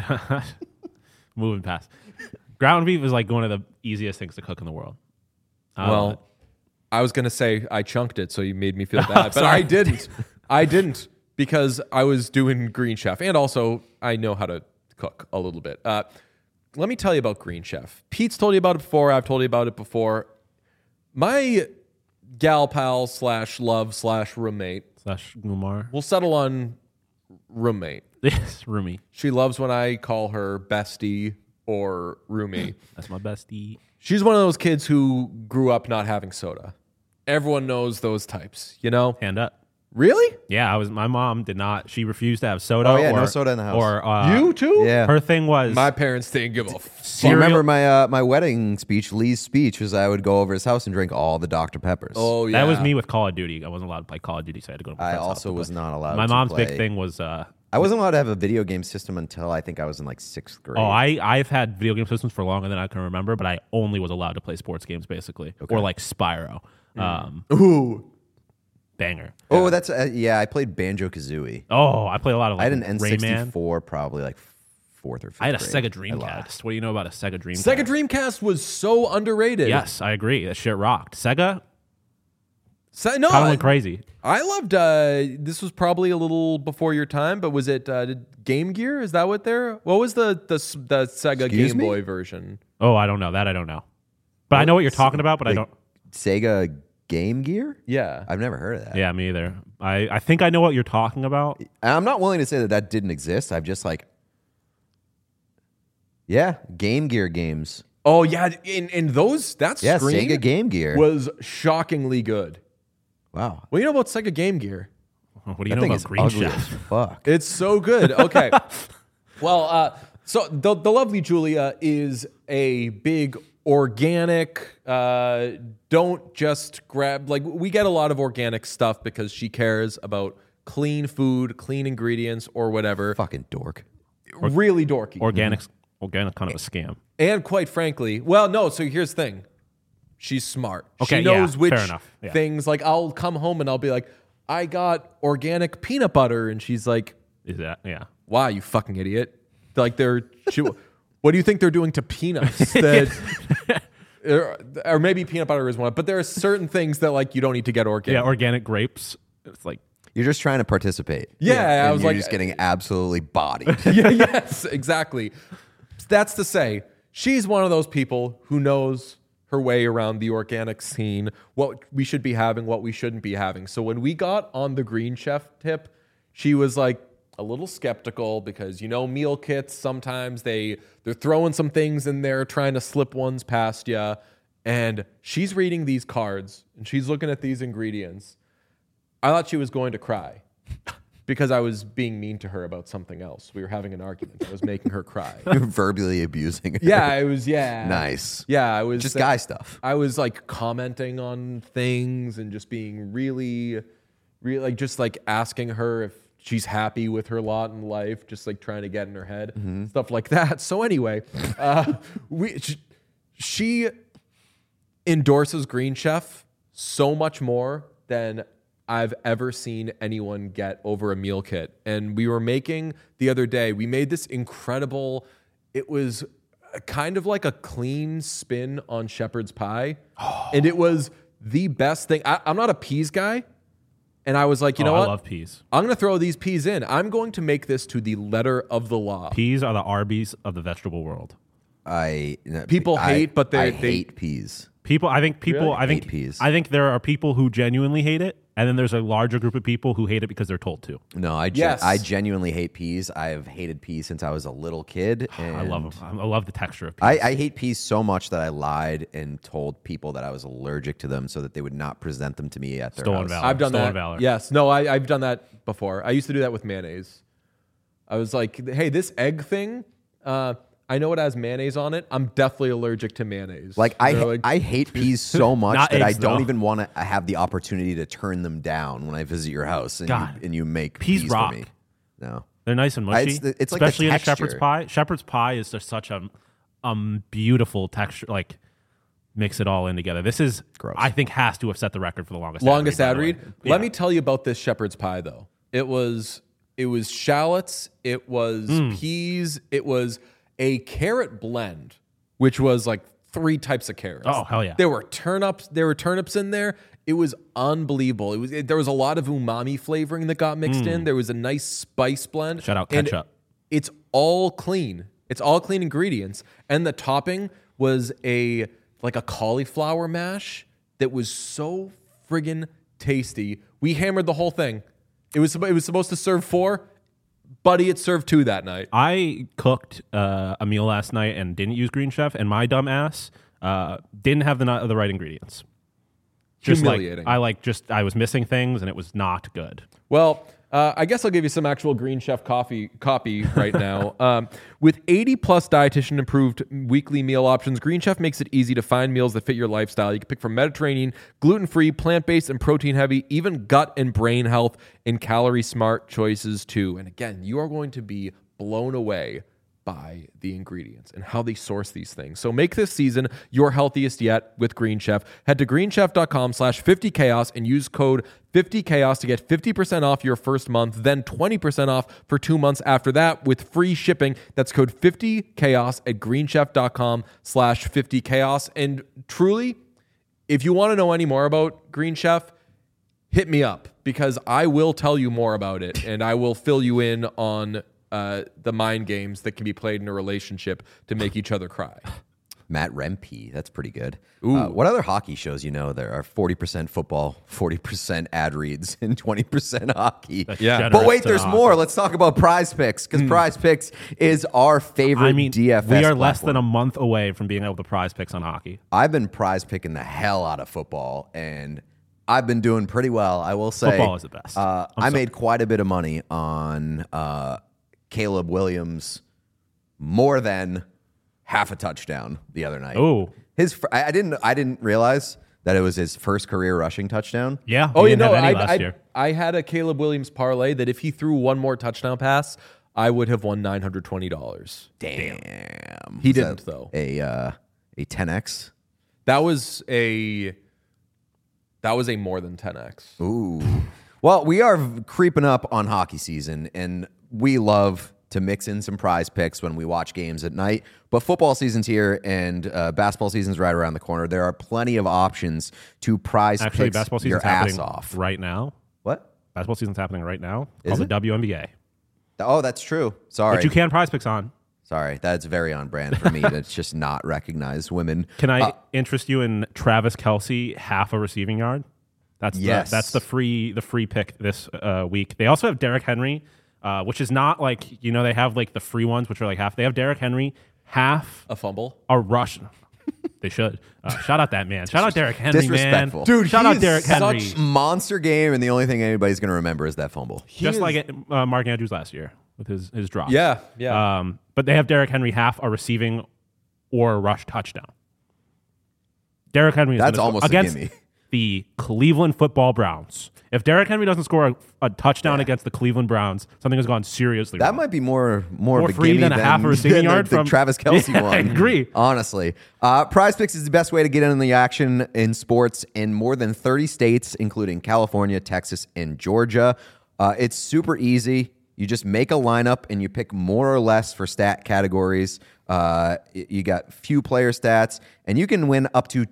Moving past. Ground beef is like one of the easiest things to cook in the world. Well, I was going to say I chunked it, so you made me feel bad. But I didn't. I didn't because I was doing Green Chef. And also, I know how to cook a little bit. Let me tell you about Green Chef. Pete's told you about it before. I've told you about it before. My gal pal / love / roommate / Gumar. we'll settle on roommate. Yes, roomie. She loves when I call her bestie or roomie. That's my bestie. She's one of those kids who grew up not having soda. Everyone knows those types, you know? Hand up. Really? Yeah, my mom did not. She refused to have soda. Oh, yeah, no soda in the house. Or You too? Yeah. her thing was My parents didn't give a Do you remember my wedding speech? Lee's speech was I would go over his house and drink all the Dr. Peppers. Oh, yeah. That was me with Call of Duty. I wasn't allowed to play Call of Duty, so I had to go to my I friend's also house. was not allowed. My to mom's play. big thing was. I wasn't allowed to have a video game system until I think I was in like 6th grade. Oh, I've had video game systems for longer than I can remember, but I only was allowed to play sports games basically, or like Spyro. Ooh. Banger. Oh, that's I played Banjo-Kazooie. Oh, I played a lot of. Like, I had an Rayman. N64 probably like 4th or 5th. I had a grade. Sega Dreamcast. What do you know about a Sega Dreamcast? Sega Dreamcast was so underrated. Yes, I agree. That shit rocked. Sega No, kind of went crazy. I loved. This was probably a little before your time, but was it Game Gear? Is that what there? What was the Sega Excuse Game me? Boy version? Oh, I don't know. That I don't know. But I know what you're talking about, but I don't. Sega Game Gear? Yeah. I've never heard of that. Yeah, me either. I think I know what you're talking about. And I'm not willing to say that didn't exist. I've just like, Game Gear games. Oh yeah, in those that Yeah, screen Sega Game Gear. was shockingly good. Wow. What do you know about Sega Game Gear? What do you That know thing about is Green ugly as Chef? fuck. It's so good. Okay. Well, so the lovely Julia is a big organic. Don't just grab we get a lot of organic stuff because she cares about clean food, clean ingredients, or whatever. Fucking dork. Really dorky. Organic kind of a scam. And quite frankly, well, no. So here's the thing: she's smart. Okay, she knows yeah, which fair enough. Yeah. things. Like I'll come home and I'll be like, I got organic peanut butter, and she's like, Is that "Wow, you fucking idiot!" Like what do you think they're doing to peanuts? That, or maybe peanut butter is one, but there are certain things that you don't need to get organic. Yeah, organic grapes. It's like You're just trying to participate. Yeah, I was you're like, just getting absolutely bodied. yes, exactly. That's to say, she's one of those people who knows her way around the organic scene, what we should be having, what we shouldn't be having. So when we got on the Green Chef tip, she was like a little skeptical because meal kits sometimes they're throwing some things in there, trying to slip ones past you, and she's reading these cards and she's looking at these ingredients. I thought she was going to cry. Because I was being mean to her about something else. We were having an argument. I was making her cry. You're verbally abusing her. Yeah, it was, yeah. Nice. Yeah, I was. Just guy stuff. I was commenting on things and just being really just asking her if she's happy with her lot in life, just trying to get in her head, stuff like that. So anyway, she endorses Green Chef so much more than I've ever seen anyone get over a meal kit. And we were making the other day, we made this incredible, it was kind of like a clean spin on shepherd's pie. And it was the best thing. I'm not a peas guy. And I was like, you know what? I love peas. I'm going to throw these peas in. I'm going to make this to the letter of the law. Peas are the Arby's of the vegetable world. People hate, but they hate peas. I think Hate peas. I think there are people who genuinely hate it, And then there's a larger group of people who hate it because they're told to. No, I genuinely hate peas. I have hated peas since I was a little kid. And I love them. I love the texture of peas. I hate peas so much that I lied and told people that I was allergic to them so that they would not present them to me at their house. Valor. I've done Stolen that. Valor. Yes. No, I've done that before. I used to do that with mayonnaise. I was like, hey, this egg thing, I know it has mayonnaise on it. I'm definitely allergic to mayonnaise. Like I hate peas so much that eggs, I don't though. even want to have the opportunity to turn them down when I visit your house and you make peas rock. for me. No, they're nice and mushy. It's like the especially in a texture. shepherd's pie. Shepherd's pie is just such a beautiful texture. Like mix it all in together. This is, gross. I think, has to have set the record for the longest ad read. Yeah. Let me tell you about this shepherd's pie, though. It was shallots. It was peas. It was a carrot blend, which was like 3 types of carrots. Oh, hell yeah. There were turnips in there. It was unbelievable. There was a lot of umami flavoring that got mixed in. There was a nice spice blend. Shout out ketchup. It's all clean. It's all clean ingredients. And the topping was like a cauliflower mash that was so friggin' tasty. We hammered the whole thing. It was supposed to serve 4. Buddy, it served 2 that night. I cooked a meal last night and didn't use Green Chef, and my dumb ass didn't have the right ingredients. Just humiliating. I was missing things, and it was not good. Well, I guess I'll give you some actual Green Chef copy right now. With 80-plus dietitian-approved weekly meal options, Green Chef makes it easy to find meals that fit your lifestyle. You can pick from Mediterranean, gluten-free, plant-based, and protein-heavy, even gut and brain health and calorie-smart choices, too. And again, you are going to be blown away by the ingredients and how they source these things. So make this season your healthiest yet with Green Chef. Head to greenchef.com/50chaos and use code 50chaos to get 50% off your first month, then 20% off for 2 months after that with free shipping. That's code 50chaos at greenchef.com/50chaos. And truly, if you want to know any more about Green Chef, hit me up because I will tell you more about it and I will fill you in on the mind games that can be played in a relationship to make each other cry. Matt Rempe, that's pretty good. What other hockey shows there are 40% football, 40% ad reads, and 20% hockey? Yeah. But wait, there's more. Let's talk about Prize Picks because Prize Picks is our favorite DFS we are platform. less than a month away from being able to Prize Picks on hockey. I've been prize picking the hell out of football, and I've been doing pretty well, I will say. Football is the best. I made quite a bit of money on Caleb Williams, more than half a touchdown the other night. Oh, I didn't realize that it was his first career rushing touchdown. Yeah. Oh, last year. I had a Caleb Williams parlay that if he threw one more touchdown pass, I would have won $920. Damn. He didn't though. A 10x. That was a more than 10x. Ooh. Well, we are creeping up on hockey season, and we love to mix in some prize picks when we watch games at night. But football season's here, and basketball season's right around the corner. There are plenty of options to prize picks basketball your season's ass happening off. right now. What? Basketball season's happening right now. Is Called it? the WNBA. Oh, that's true. Sorry. But you can Prize Picks on. Sorry. That's very on brand for me to just not recognize women. Can I interest you in Travis Kelce half a receiving yard? That's the free pick this week. They also have Derrick Henry, which is not like, they have like the free ones, which are like half. They have Derrick Henry half A fumble. a rush. They should. Shout out that man. Shout out Derrick Henry, man. Disrespectful. Dude, shout he out is Derrick Henry. Such monster game, and the only thing anybody's going to remember is that fumble. Just like Mark Andrews last year with his drop. Yeah. But they have Derrick Henry half a receiving or a rush touchdown. Derrick Henry is That's gonna almost a against gimme. the Cleveland Football Browns. If Derrick Henry doesn't score a touchdown against the Cleveland Browns, something has gone seriously That wrong. might be more of a free gimme than a half a receiving yard the from Travis Kelce Yeah, one. I agree. Honestly, Prize Picks is the best way to get in the action in sports in more than 30 states, including California, Texas, and Georgia. It's super easy. You just make a lineup and you pick more or less for stat categories. You got few player stats, and you can win up to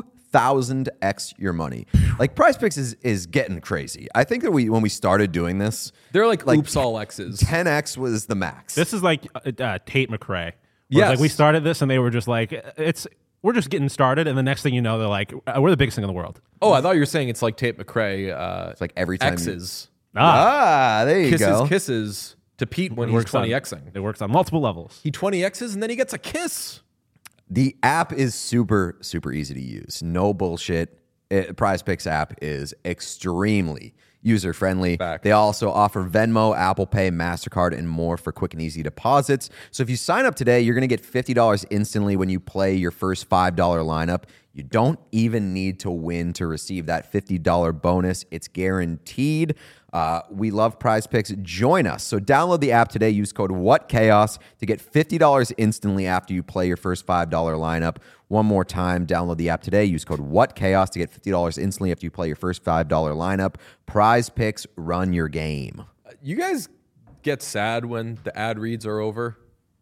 2,000x your money. Like Prize Picks is getting crazy. I think that when we started doing this, They're like oops all X's. 10x was the max. This is like Tate McRae. Yes. Like we started this and they were just like, it's we're just getting started, and the next thing you know, they're like, we're the biggest thing in the world. Oh, I thought you were saying it's like Tate McRae. It's like every time X's. there you go. Kisses to Pete when he's 20xing. It works on multiple levels. He 20x's and then he gets a kiss. The app is super, super easy to use. No bullshit. Prize Picks app is extremely user-friendly. Fact. They also offer Venmo, Apple Pay, MasterCard, and more for quick and easy deposits. So if you sign up today, you're going to get $50 instantly when you play your first $5 lineup. You don't even need to win to receive that $50 bonus. It's guaranteed. We love Prize Picks. Join us. So download the app today. Use code WhatChaos to get $50 instantly after you play your first $5 lineup. One more time, download the app today. Use code WhatChaos to get $50 instantly after you play your first $5 lineup. Prize Picks, run your game. You guys get sad when the ad reads are over?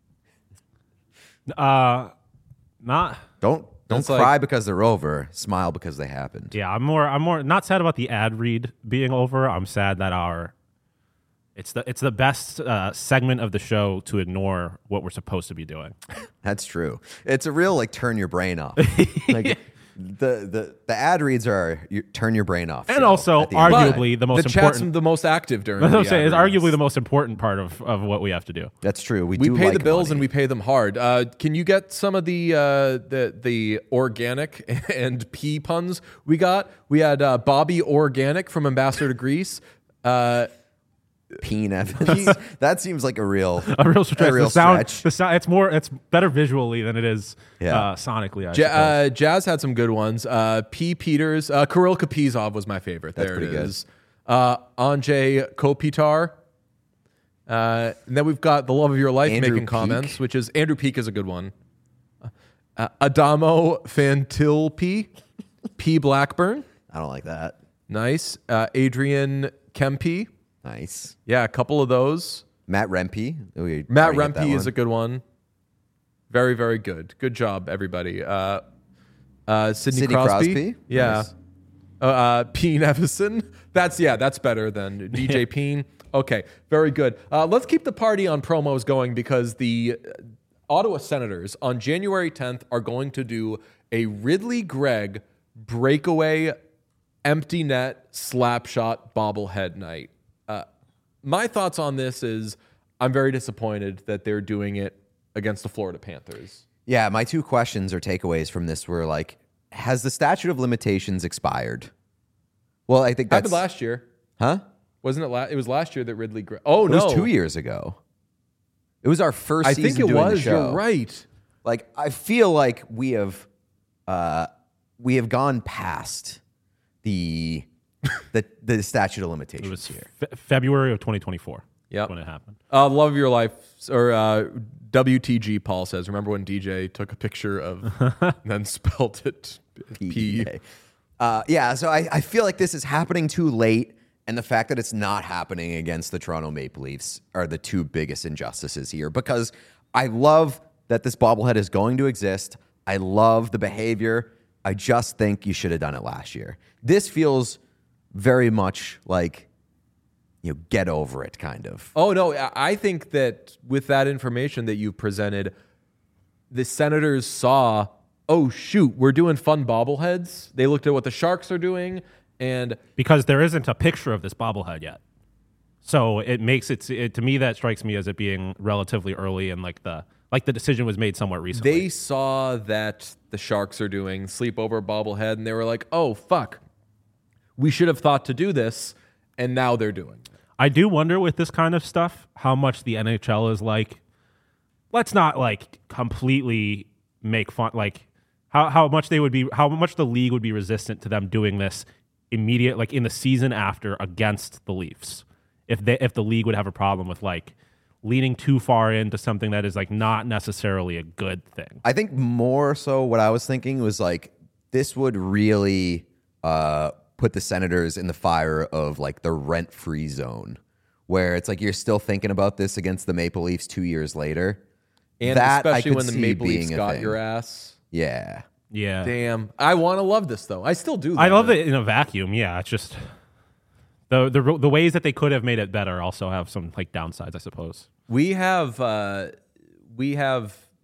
Not. Don't It's cry like- because they're over. Smile because they happened. Yeah, I'm more not sad about the ad read being over. I'm sad that it's the best segment of the show to ignore what we're supposed to be doing. That's true. It's a real like turn your brain off. Like the ad reads are turn your brain off. And show also at the end of the day. arguably the most the chat's important. the most active during That's the what I'm saying. ad It's reads. arguably the most important part of what we have to do. That's true. We We do pay like the bills money. and we pay them hard. Can you get some of the organic and pea puns we got? We had Bobby Organic from Ambassador to Greece. Peen Evans. That seems like a real stretch. A real stretch. The sound, it's better visually than it is Yeah. sonically. I suppose. Jazz had some good ones. P. Peters, Kirill Kaprizov was my favorite. That's there pretty it good. is. Anjay Kopitar. And then we've got the love of your life Andrew making Peak. comments, which is Andrew Peak is a good one. Adamo Fantilpi, P. Blackburn, I don't like that. nice. Adrian Kempe, Nice. yeah, a couple of those. Matt Rempe. We Matt already hit that Rempe is one. a good one. Very, very good. Good job, everybody. Sidney Sidney Crosby. Crosby? Yeah. Nice. Peen Evison. That's better than DJ Peen. Okay, very good. Let's keep the party on promos going because the Ottawa Senators on January 10th are going to do a Ridley Gregg breakaway empty net slap shot bobblehead night. My thoughts on this is I'm very disappointed that they're doing it against the Florida Panthers. Yeah, my two questions or takeaways from this were like, has the statute of limitations expired? Well, I think that's Happened last year. Huh? Wasn't it? It was last year that Ridley Gregg. Oh, It no. was 2 years ago. It was our first I season think it doing the was. show. You're right. Like, I feel like we have gone past the statute of limitations It was here. February of 2024. Yep. When it happened. Love of your life, or WTG Paul says, remember when DJ took a picture of and then spelt it P? Yeah, so I feel like this is happening too late, and the fact that it's not happening against the Toronto Maple Leafs are the two biggest injustices here, because I love that this bobblehead is going to exist. I love the behavior. I just think you should have done it last year. This feels very much like, get over it kind of. Oh, no. I think that with that information that you presented, the Senators saw, oh, shoot, we're doing fun bobbleheads. They looked at what the Sharks are doing, and Because there isn't a picture of this bobblehead yet. So it makes it to me, that strikes me as it being relatively early, and like the decision was made somewhat recently. they saw that the Sharks are doing sleepover bobblehead, and they were like, oh, fuck. We should have thought to do this, and now they're doing it. I do wonder with this kind of stuff how much the NHL is like, let's not like completely make fun, like how much the league would be resistant to them doing this immediate, like in the season after against the Leafs. If the league would have a problem with like leaning too far into something that is like not necessarily a good thing. I think more so what I was thinking was like, this would really put the Senators in the fire of like the rent-free zone, where it's like you're still thinking about this against the Maple Leafs 2 years later. And That I especially could when the see Maple Leafs being a got thing. your ass. Yeah. Yeah. Damn. I want to love this, though. I still do. I love it in a vacuum. Yeah, it's just the ways that they could have made it better also have some like downsides, I suppose. We have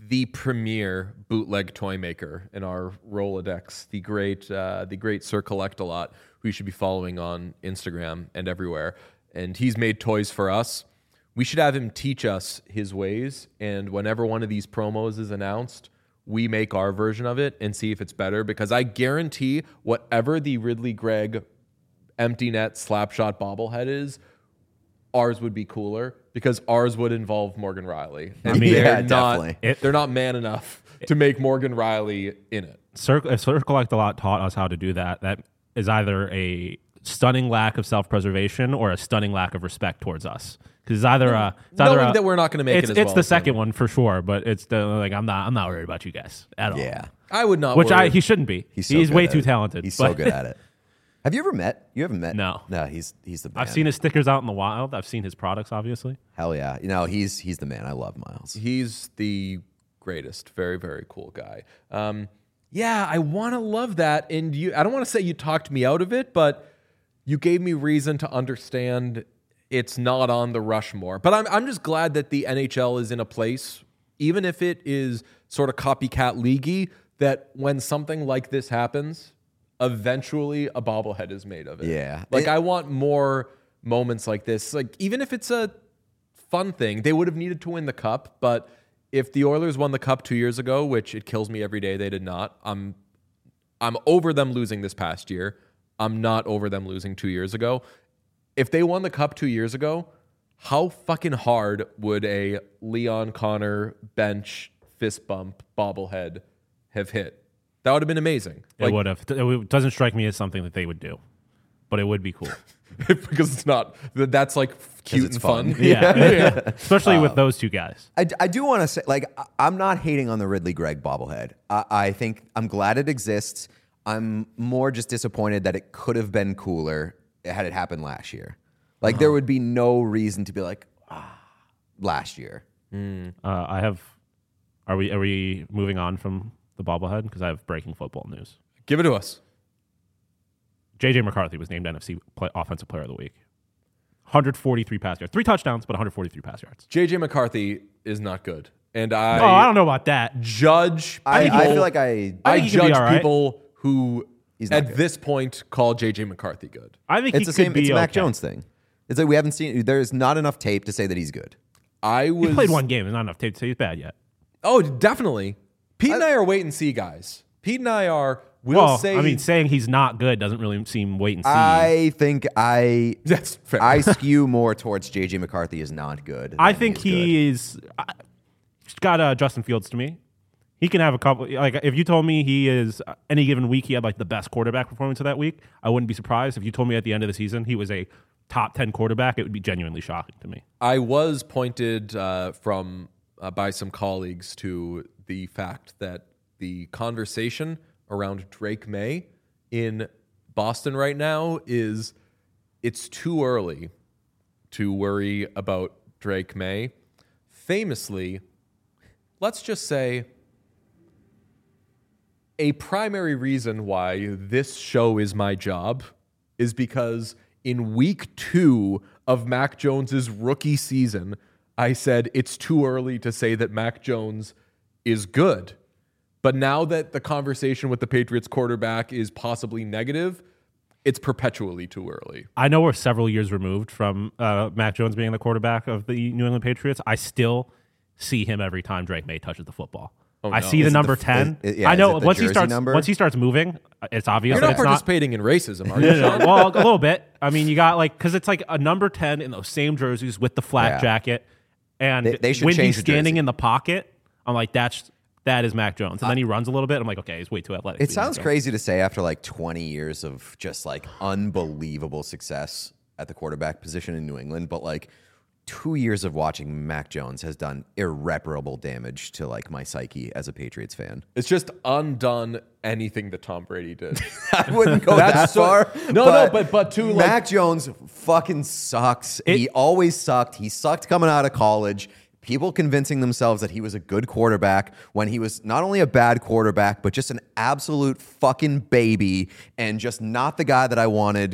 the premier bootleg toy maker in our Rolodex, the great Sir Collect-A-Lot, who you should be following on Instagram and everywhere. And he's made toys for us. We should have him teach us his ways. And whenever one of these promos is announced, we make our version of it and see if it's better. Because I guarantee whatever the Ridley Gregg empty net slapshot bobblehead is, ours would be cooler because ours would involve Morgan Riley. And definitely. They're not man enough to make Morgan Riley in it. If Sir Collect-A-Lot taught us how to do that, that is either a stunning lack of self-preservation or a stunning lack of respect towards us. Because it's either knowing that we're not going to make it as well. It's the second one for sure, but it's the I'm not worried about you guys at all. Yeah, I would not. He shouldn't be. He's way too talented. He's so good at it. Have you ever met? You haven't met? No. He's the man. I've seen his stickers out in the wild. I've seen his products, obviously. Hell yeah. He's the man. I love Miles. He's the greatest. Very, very cool guy. Yeah, I want to love that. And I don't want to say you talked me out of it, but you gave me reason to understand it's not on the Rushmore. But I'm just glad that the NHL is in a place, even if it is sort of copycat leaguey, that when something like this happens, eventually a bobblehead is made of it. Yeah. I want more moments like this. Like, even if it's a fun thing, they would have needed to win the cup. But if the Oilers won the cup 2 years ago, which it kills me every day they did not, I'm over them losing this past year. I'm not over them losing 2 years ago. If they won the cup 2 years ago, how fucking hard would a Leon Connor bench fist bump bobblehead have hit? That would have been amazing. It would have. It doesn't strike me as something that they would do, but it would be cool. Because it's not. That's like cute and fun. Yeah. Especially with those two guys. I do want to say, I'm not hating on the Ridley Gregg bobblehead. I think I'm glad it exists. I'm more just disappointed that it could have been cooler had it happened last year. There would be no reason to be last year. Are we moving on from the bobblehead? Because I have breaking football news. Give it to us. JJ McCarthy was named NFC Offensive Player of the Week. 143 pass yards. 3 touchdowns, but 143 pass yards. JJ McCarthy is not good. And I don't know about that. I feel like I judge people who at this point call JJ McCarthy good. I think it's the same. It's a Mac Jones thing. It's like we haven't seen. There's not enough tape to say that he's good. He played one game. There's not enough tape to say he's bad yet. Oh, definitely. Pete and I are wait and see guys. Pete and I are. Saying he's not good doesn't really seem wait and see. I think that's fair. I skew more towards JJ McCarthy is not good. I think he's got Justin Fields to me. He can have a couple. If you told me he is any given week, he had the best quarterback performance of that week, I wouldn't be surprised. If you told me at the end of the season he was a top 10 quarterback, it would be genuinely shocking to me. I was pointed by some colleagues to the fact that the conversation around Drake May in Boston right now is it's too early to worry about Drake May. Famously, let's just say a primary reason why this show is my job is because in week 2 of Mac Jones's rookie season, I said it's too early to say that Mac Jones is good. But now that the conversation with the Patriots quarterback is possibly negative, it's perpetually too early. I know we're several years removed from Mac Jones being the quarterback of the New England Patriots. I still see him every time Drake May touches the football. Oh, no. I see the number 10. I know once he starts moving, it's obvious. You're not participating in racism, are you, Sean? Well, a little bit. I mean, you got because it's a number 10 in those same jerseys with the flak jacket, and they should when change he's standing in the pocket, I'm like, that is Mac Jones. And then he runs a little bit. I'm like, okay, he's way too athletic. It sounds crazy to say after 20 years of just unbelievable success at the quarterback position in New England, but 2 years of watching Mac Jones has done irreparable damage to my psyche as a Patriots fan. It's just undone anything that Tom Brady did. I wouldn't go that far. But to Mac Jones fucking sucks. He always sucked. He sucked coming out of college. People convincing themselves that he was a good quarterback when he was not only a bad quarterback, but just an absolute fucking baby and just not the guy that I wanted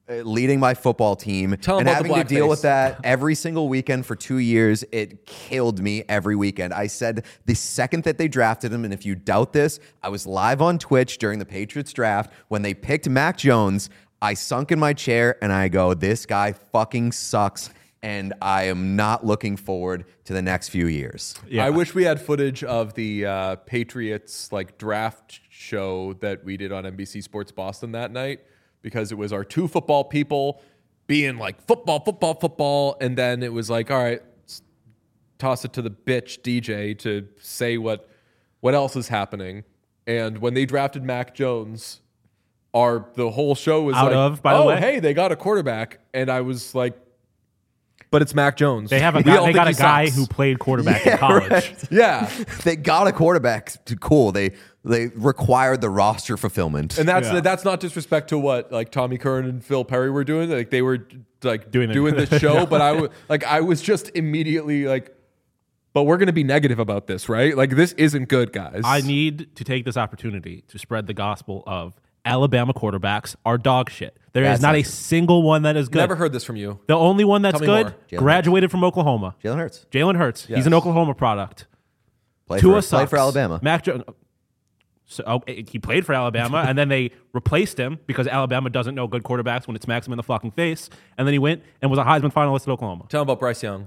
leading my football team and having to deal with that every single weekend for 2 years. It killed me every weekend. I said the second that they drafted him, and if you doubt this, I was live on Twitch during the Patriots draft when they picked Mac Jones. I sunk in my chair and I go, this guy fucking sucks, and I am not looking forward to the next few years. Yeah. I wish we had footage of the Patriots like draft show that we did on NBC Sports Boston that night, because it was our two football people being like football, and then it was like, all right, toss it to the bitch DJ to say what else is happening. And when they drafted Mac Jones, the whole show was by the way, hey, they got a quarterback, and I was like, but it's Mac Jones. They got a guy who played quarterback in college. Right. Yeah, they got a quarterback. Cool. They required the roster fulfillment, and that's not disrespect to what like Tommy Curran and Phil Perry were doing. Like they were like doing the show, but I was just immediately like, but we're going to be negative about this, right? Like this isn't good, guys. I need to take this opportunity to spread the gospel of Alabama quarterbacks are dog shit. There is not a single one that is good. Never heard this from you. The only one that's good graduated from Oklahoma. Jalen Hurts. Yes. He's an Oklahoma product. Played for Alabama. Mac Jones. So he played for Alabama, and then they replaced him because Alabama doesn't know good quarterbacks when it smacks him in the fucking face. And then he went and was a Heisman finalist at Oklahoma. Tell him about Bryce Young.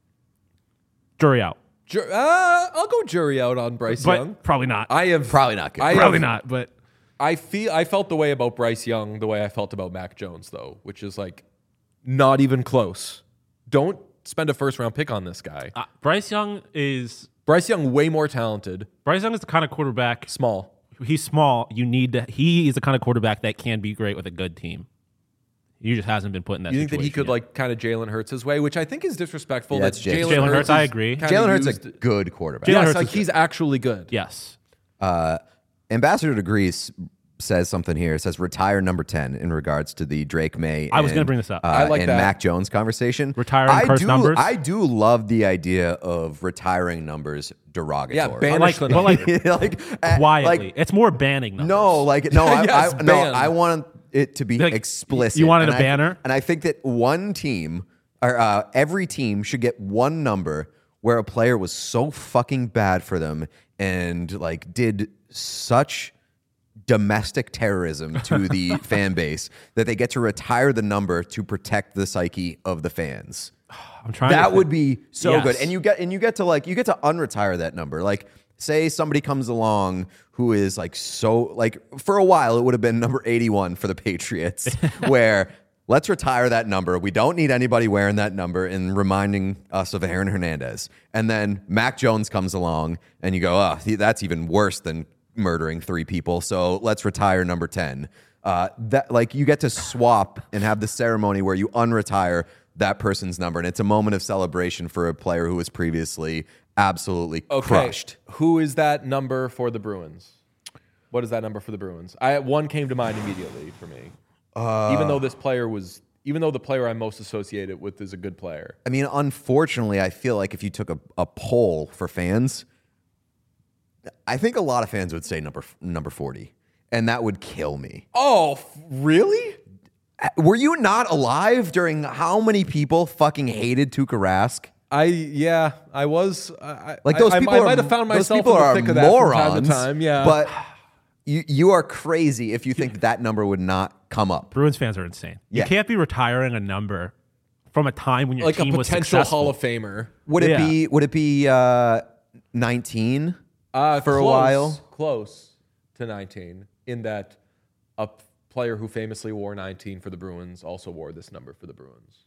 Jury out. I'll go jury out on Bryce Young. Probably not. Probably not good. Probably not, but... I felt the way about Bryce Young the way I felt about Mac Jones, though, which is like not even close. Don't spend a first-round pick on this guy. Bryce Young, way more talented. Bryce Young is the kind of quarterback. Small. He's small. He is the kind of quarterback that can be great with a good team. He just hasn't been put in that situation. You think that he could like kind of Jalen Hurts his way, which I think is disrespectful. Yeah, that's Jalen Hurts. I agree. Jalen Hurts is a good quarterback. Yes, like he's actually good. Yes. Ambassador Degrees says something here. It says retire number 10 in regards to the Drake May. I was going to bring this up. I like and that. Mac Jones conversation. Retiring cursed numbers. I do love the idea of retiring numbers derogatory. Yeah, banish but quietly. It's more banning numbers. I want it to be explicit. You wanted a banner? And I think that one team, or every team should get one number where a player was so fucking bad for them and like did such domestic terrorism to the fan base that they get to retire the number to protect the psyche of the fans. I'm trying. That would be so good, and you get to unretire that number. Like, say somebody comes along who is like so like for a while it would have been number 81 for the Patriots, where let's retire that number. We don't need anybody wearing that number and reminding us of Aaron Hernandez. And then Mac Jones comes along, and you go, oh, that's even worse than murdering 3 people. So let's retire number 10. That like you get to swap and have the ceremony where you unretire that person's number, and it's a moment of celebration for a player who was previously absolutely crushed. Who is that number for the Bruins? What is that number for the Bruins? One came to mind immediately for me. Even though the player I'm most associated with is a good player. I mean, unfortunately, I feel like if you took a poll for fans, I think a lot of fans would say number 40, and that would kill me. Oh, really? Were you not alive during how many people fucking hated Tuukka Rask? I was. Those people I might have found myself in the thick of that morons, from time to time. Yeah, but you are crazy if you think that number would not come up. Bruins fans are insane. Yeah. You can't be retiring a number from a time when your team was successful. Like a potential Hall of Famer. Would it be 19 for a while? Close to 19 in that a player who famously wore 19 for the Bruins also wore this number for the Bruins.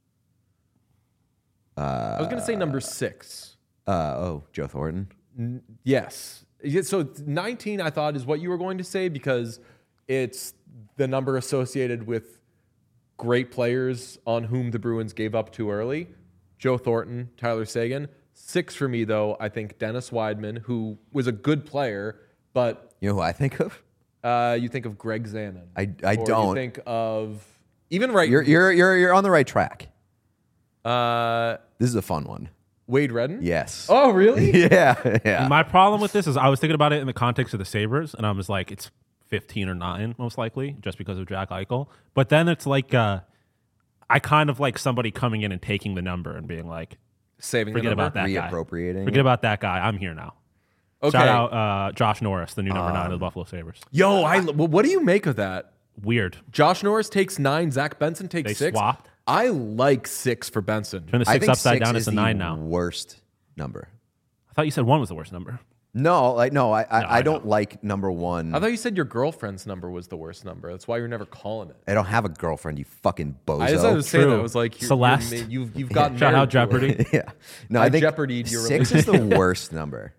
I was going to say number 6. Joe Thornton? Yes. So 19, I thought, is what you were going to say because it's the number associated with great players on whom the Bruins gave up too early. Joe Thornton, Tyler Seguin. 6 for me, though, I think Dennis Weidman, who was a good player, but... You know who I think of? You think of Greg Zanon. I don't. You think of... Even right... You're on the right track. This is a fun one. Wade Redden? Yes. Oh, really? Yeah. My problem with this is I was thinking about it in the context of the Sabres, and I was like, it's 15 or 9, most likely, just because of Jack Eichel. But then it's like, I kind of like somebody coming in and taking the number and being like, saving forget the number? about that guy. Reappropriating. Forget about that guy. I'm here now. Okay. Shout out Josh Norris, the new number 9 of the Buffalo Sabres. Yo, what do you make of that? Weird. Josh Norris takes 9, Zach Benson takes They 6. swapped. I like 6 for Benson. Turn the I 6 think upside 6 down. is It's a the 9 now. worst number. I thought you said 1 was the worst number. No, I I don't know. like number 1. I thought you said your girlfriend's number was the worst number. That's why you're never calling it. I don't have a girlfriend, you fucking bozo. I just was saying True. that. I was like, Celeste. you've gotten Shout out married to her. Jeopardy. Yeah. No, I I think jeopardied your 6 is the worst number.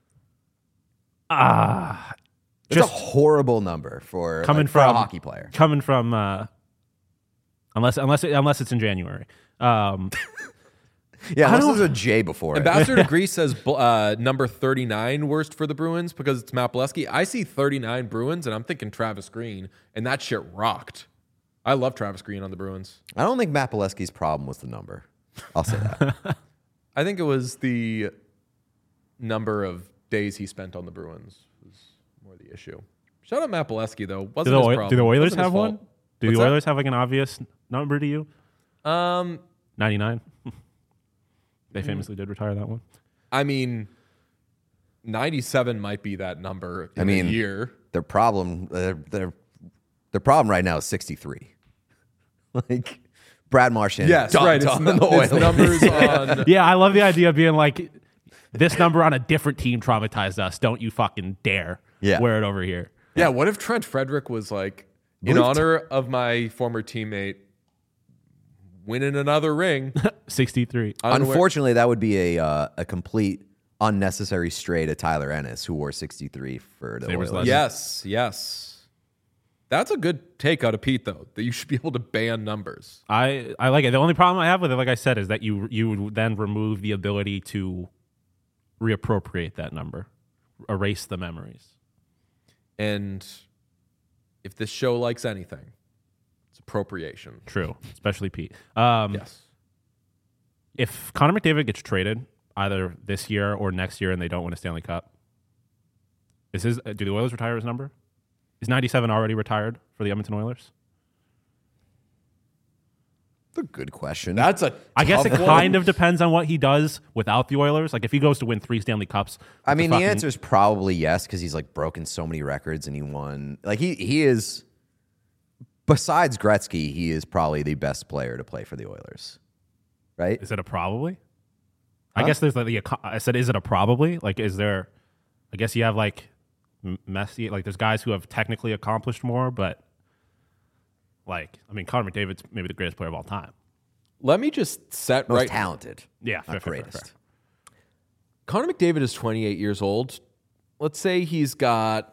It's a horrible number for Coming for a from hockey player. Coming from unless it's in January. Yeah, unless there's a J before it. Ambassador to Greece says number 39 worst for the Bruins because it's Matt Bolesky. I see 39 Bruins, and I'm thinking Travis Green, and that shit rocked. I love Travis Green on the Bruins. I don't think Matt Bolesky's problem was the number. I'll say that. I think it was the number of days he spent on the Bruins was more the issue. Shout out Matt Bolesky, though. Wasn't his problem. Do the Oilers Wasn't his have one? fault. Do What's the that? Oilers have like an obvious number to you? 99. They famously did retire that one. I mean, 97 might be that number in I mean, a year. Their problem right now is 63. Like Brad Marchand. Yes, dunked right. on the It's Oilers. numbers on. Yeah, I love the idea of being like, this number on a different team traumatized us. Don't you fucking dare wear it over here. Yeah, what if Trent Frederick was like, in honor of my former teammate winning another ring? 63. Unfortunately, that would be a complete unnecessary stray to Tyler Ennis, who wore 63 for the Sabres Oilers. legend. Yes. That's a good take out of Pete, though, that you should be able to ban numbers. I like it. The only problem I have with it, like I said, is that you would then remove the ability to reappropriate that number, erase the memories. And if this show likes anything, it's appropriation. True, especially Pete. Yes. If Connor McDavid gets traded either this year or next year and they don't win a Stanley Cup, do the Oilers retire his number? Is 97 already retired for the Edmonton Oilers? That's a good question. I guess it kind of depends on what he does without the Oilers. Like if he goes to win 3 Stanley Cups. I mean, the answer is probably yes, because he's like broken so many records and he won. Like he is, besides Gretzky, he is probably the best player to play for the Oilers. Right? Is it a probably? I guess there's I said, is it a probably? Like, is there? I guess you have like Messi. Like, there's guys who have technically accomplished more, but like, I mean, Connor McDavid's maybe the greatest player of all time. Let me just set Most right. talented. Yeah, Not fair. greatest. Connor McDavid is 28 years old. Let's say he's got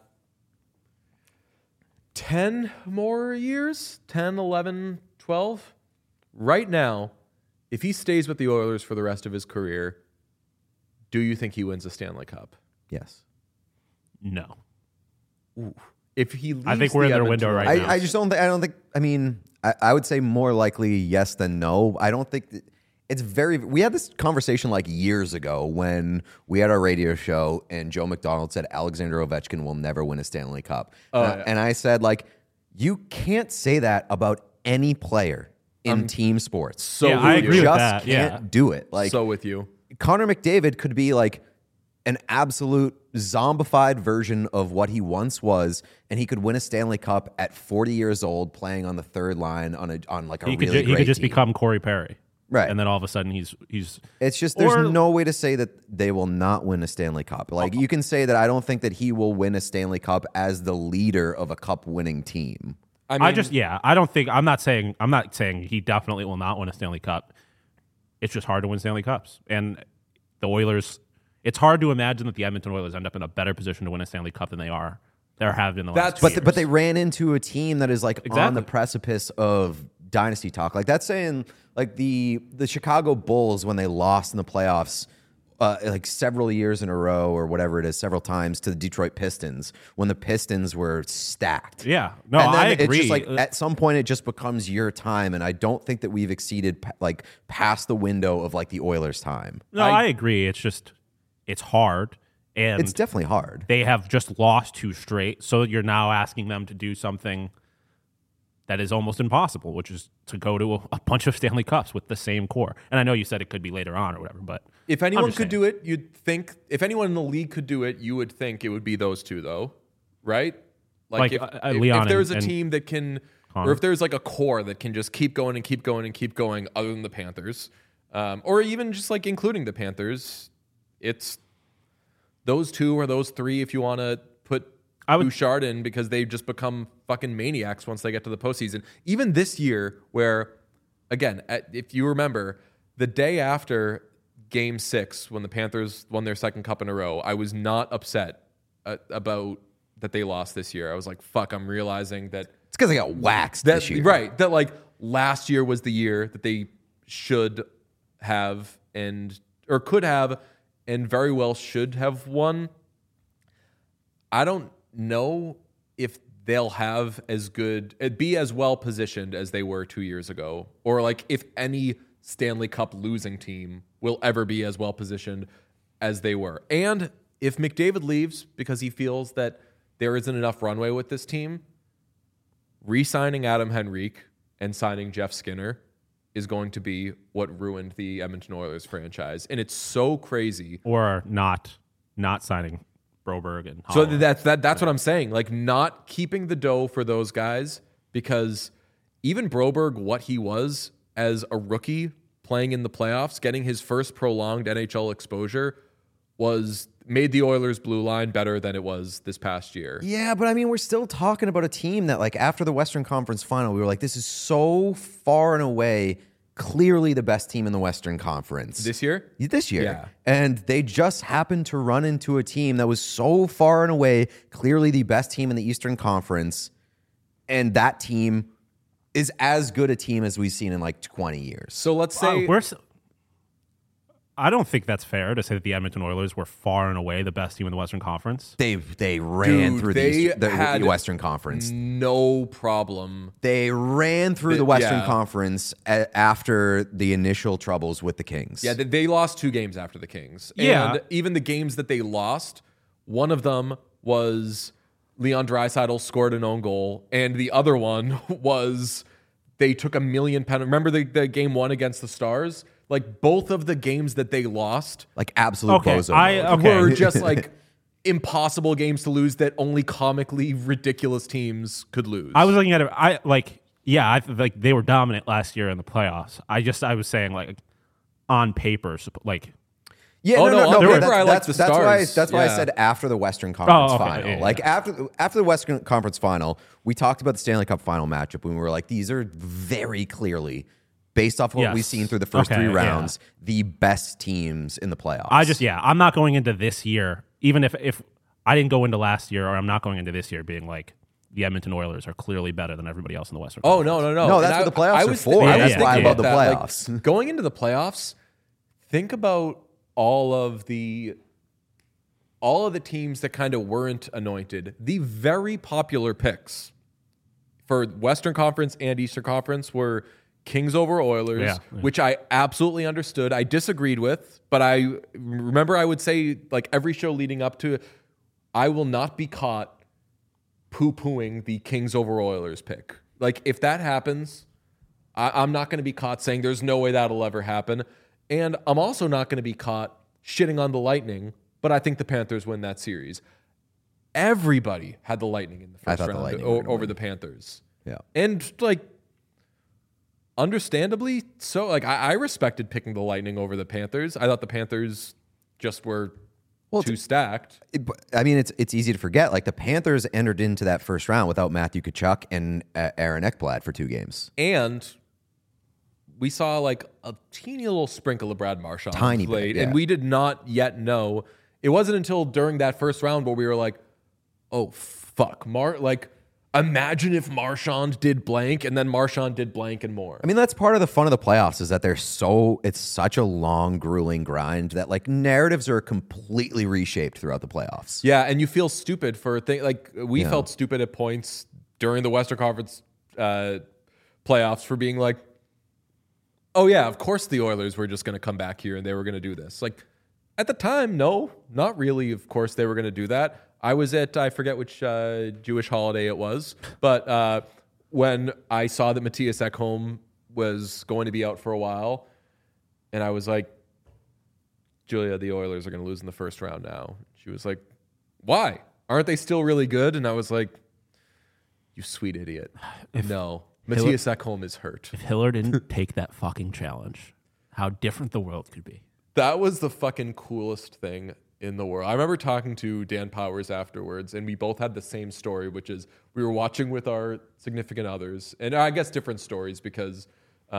10 more years, 10, 11, 12. Right now, if he stays with the Oilers for the rest of his career, do you think he wins a Stanley Cup? Yes. No. Ooh. If he leaves I think we're in their window right now. I just don't think. I don't think. I mean, I would say more likely yes than no. I don't think that it's very. We had this conversation like years ago when we had our radio show and Joe McDonald said Alexander Ovechkin will never win a Stanley Cup, and I said like you can't say that about any player in team sports. So Yeah, I with you. agree with just that. can't Yeah. do it. Like So with you. Connor McDavid could be like an absolute zombified version of what he once was, and he could win a Stanley Cup at 40 years old, playing on the third line on like a He really could great just team. become Corey Perry. Right. And then all of a sudden he's It's just there's Or- no way to say that they will not win a Stanley Cup. Like you can say that I don't think that he will win a Stanley Cup as the leader of a cup-winning team. I mean, I'm not saying he definitely will not win a Stanley Cup. It's just hard to win Stanley Cups. And the Oilers, it's hard to imagine that the Edmonton Oilers end up in a better position to win a Stanley Cup than they have been the last 2 years. But they ran into a team that is like on Exactly. the precipice of dynasty talk. Like that's saying like the Chicago Bulls when they lost in the playoffs like several years in a row or whatever it is, several times to the Detroit Pistons when the Pistons were stacked. Yeah. No, And then I agree. It's just like at some point it just becomes your time, and I don't think that we've exceeded like past the window of like the Oilers' time. No, I agree. It's just, it's hard. And it's definitely hard. They have just lost 2 straight, so you're now asking them to do something that is almost impossible, which is to go to a bunch of Stanley Cups with the same core. And I know you said it could be later on or whatever, but if anyone could do it, you'd think, if anyone in the league could do it, you would think it would be those two, though, right? Like if there's a team that can, or if there's like a core that can just keep going and keep going and keep going, other than the Panthers, or even just like including the Panthers, it's those 2 or those 3 if you want to put Bouchard in, because they've just become fucking maniacs once they get to the postseason. Even this year, where, again, if you remember, the day after Game 6, when the Panthers won their second cup in a row, I was not upset about that they lost this year. I was like, fuck, I'm realizing that It's because they got waxed this year. Right. That like last year was the year that they should have or could have and very well should have won. I don't know if they'll be as well positioned as they were 2 years ago, or like if any Stanley Cup losing team will ever be as well positioned as they were. And if McDavid leaves because he feels that there isn't enough runway with this team, re-signing Adam Henrique and signing Jeff Skinner is going to be what ruined the Edmonton Oilers franchise. And it's so crazy. Or not signing Broberg and So Holland. that's what I'm saying. Like, not keeping the dough for those guys, because even Broberg, what he was as a rookie playing in the playoffs, getting his first prolonged NHL exposure, made the Oilers' blue line better than it was this past year. Yeah, but I mean, we're still talking about a team that, like, after the Western Conference Final, we were like, this is so far and away clearly the best team in the Western Conference. This year? This year. Yeah. And they just happened to run into a team that was so far and away clearly the best team in the Eastern Conference, and that team is as good a team as we've seen in, like, 20 years. So let's say... I don't think that's fair to say that the Edmonton Oilers were far and away the best team in the Western Conference. They ran through the Western Conference. No problem. They ran through the Western Conference after the initial troubles with the Kings. Yeah, they lost 2 games after the Kings. Yeah. And even the games that they lost, one of them was Leon Draisaitl scored an own goal, and the other one was they took a million penalties. Remember the game 1 against the Stars? Like, both of the games that they lost, like absolute bozo were just like impossible games to lose that only comically ridiculous teams could lose. I was looking at it. I like they were dominant last year in the playoffs. I was saying, like, on paper, like. Yeah, no. That's why I said after the Western Conference Final. Yeah. Like, after the Western Conference Final, we talked about the Stanley Cup Final matchup when we were like, these are very clearly, based off what we've seen through the first 3 rounds, the best teams in the playoffs. I'm not going into this year, even if I didn't go into last year, or I'm not going into this year being like, the Edmonton Oilers are clearly better than everybody else in the Western Conference. No. No, that's what the playoffs are for. That's why I love the playoffs. Like, going into the playoffs, think about all of the teams that kind of weren't anointed. The very popular picks for Western Conference and Eastern Conference were Kings over Oilers, which I absolutely understood. I disagreed with, but I remember I would say, like, every show leading up to it, I will not be caught poo-pooing the Kings over Oilers pick. Like, if that happens, I'm not going to be caught saying there's no way that'll ever happen. And I'm also not going to be caught shitting on the Lightning, but I think the Panthers win that series. Everybody had the Lightning in the first round over the Panthers. Yeah. And, like, understandably so. Like, I respected picking the Lightning over the Panthers. I thought the Panthers just were too stacked. I mean, it's easy to forget. Like, the Panthers entered into that first round without Matthew Tkachuk and Aaron Ekblad for 2 games. And we saw, like, a teeny little sprinkle of Brad Marchand tiny bit, and we did not yet know. It wasn't until during that first round where we were like, oh, fuck. Imagine if Marchand did blank, and then Marchand did blank and more. I mean, that's part of the fun of the playoffs, is that it's such a long, grueling grind that, like, narratives are completely reshaped throughout the playoffs. Yeah, and you feel stupid for things. Like, we felt stupid at points during the Western Conference playoffs for being like, oh, yeah, of course the Oilers were just going to come back here and they were going to do this. Like, At the time, no, not really. Of course, they were going to do that. I was at, I forget which Jewish holiday it was, but when I saw that Matthias Ekholm was going to be out for a while, and I was like, Julia, the Oilers are going to lose in the first round now. She was like, why? Aren't they still really good? And I was like, you sweet idiot. No, Matthias Ekholm is hurt. If Hiller didn't take that fucking challenge, how different the world could be. That was the fucking coolest thing in the world. I remember talking to Dan Powers afterwards, and we both had the same story, which is we were watching with our significant others, and I guess different stories because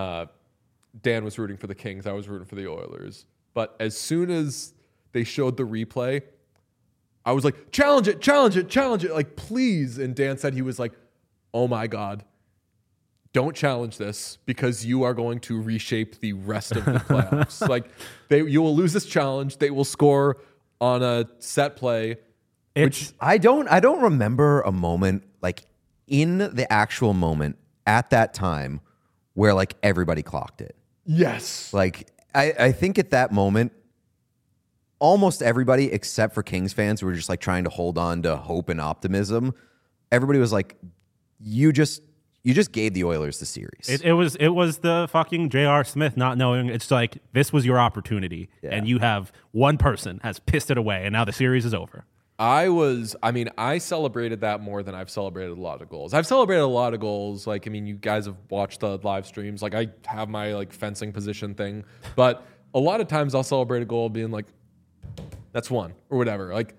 Dan was rooting for the Kings, I was rooting for the Oilers. But as soon as they showed the replay, I was like, challenge it, like, please. And Dan said he was like, oh my God, don't challenge this because you are going to reshape the rest of the playoffs. Like, you will lose this challenge. They will score on a set play. I don't remember a moment, like, in the actual moment at that time where, like, everybody clocked it. Yes. Like, I think at that moment, almost everybody except for Kings fans who were just like trying to hold on to hope and optimism, everybody was like, you just gave the Oilers the series. It was the fucking J.R. Smith not knowing. It's like, this was your opportunity, and you have one person has pissed it away, and now the series is over. I celebrated that more than I've celebrated a lot of goals. I've celebrated a lot of goals. Like, I mean, you guys have watched the live streams. Like, I have my, like, fencing position thing. But a lot of times I'll celebrate a goal being like, that's one, or whatever. Like,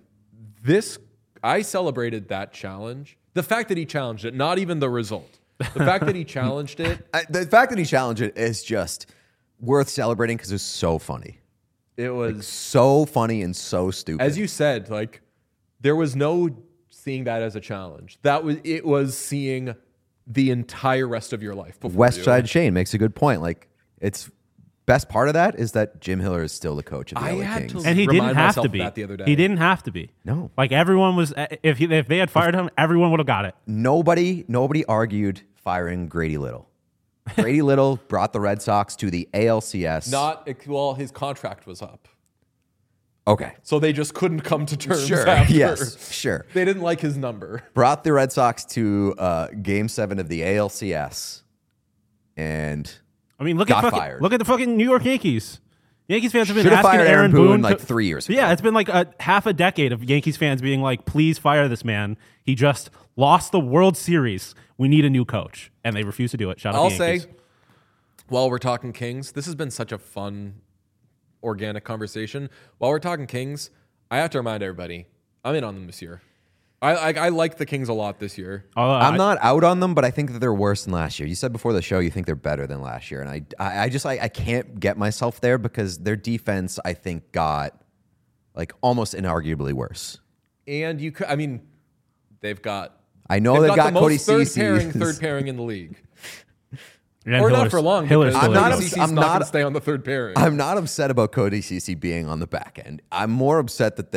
I celebrated that challenge. The fact that he challenged it, not even the result. The fact that he challenged it. The fact that he challenged it is just worth celebrating because it's so funny. It was like, so funny and so stupid. As you said, like, there was no seeing that as a challenge. It was seeing the entire rest of your life. West Side Shane makes a good point. Like, it's best part of that is that Jim Hiller is still the coach of the LA Kings. And he didn't have to be. That the other day. He didn't have to be. No. Like, everyone was, if they had fired him, everyone would have got it. Nobody argued firing Grady Little. Grady Little brought the Red Sox to the ALCS. His contract was up. Okay. So they just couldn't come to terms Sure. after. Yes, sure. They didn't like his number. Brought the Red Sox to Game 7 of the ALCS and I mean, look got at fired. Look at the fucking New York Yankees. Yankees fans have been Should have asking fired Aaron Boone like 3 years ago. Yeah, it's been like half a decade of Yankees fans being like, please fire this man. He just lost the World Series. We need a new coach. And they refuse to do it. Shout out to the Yankees. I'll say, while we're talking Kings, this has been such a fun, organic conversation. While we're talking Kings, I have to remind everybody, I'm in on them this year. I like the Kings a lot this year. I'm not out on them, but I think that they're worse than last year. You said before the show you think they're better than last year, and I can't get myself there because their defense, I think, got like almost inarguably worse. And they've got. I know they've got Cody Ceci, third pairing in the league. And or not for long. I'm not going to stay on the third pairing. I'm not upset about Cody Ceci being on the back end. I'm more upset that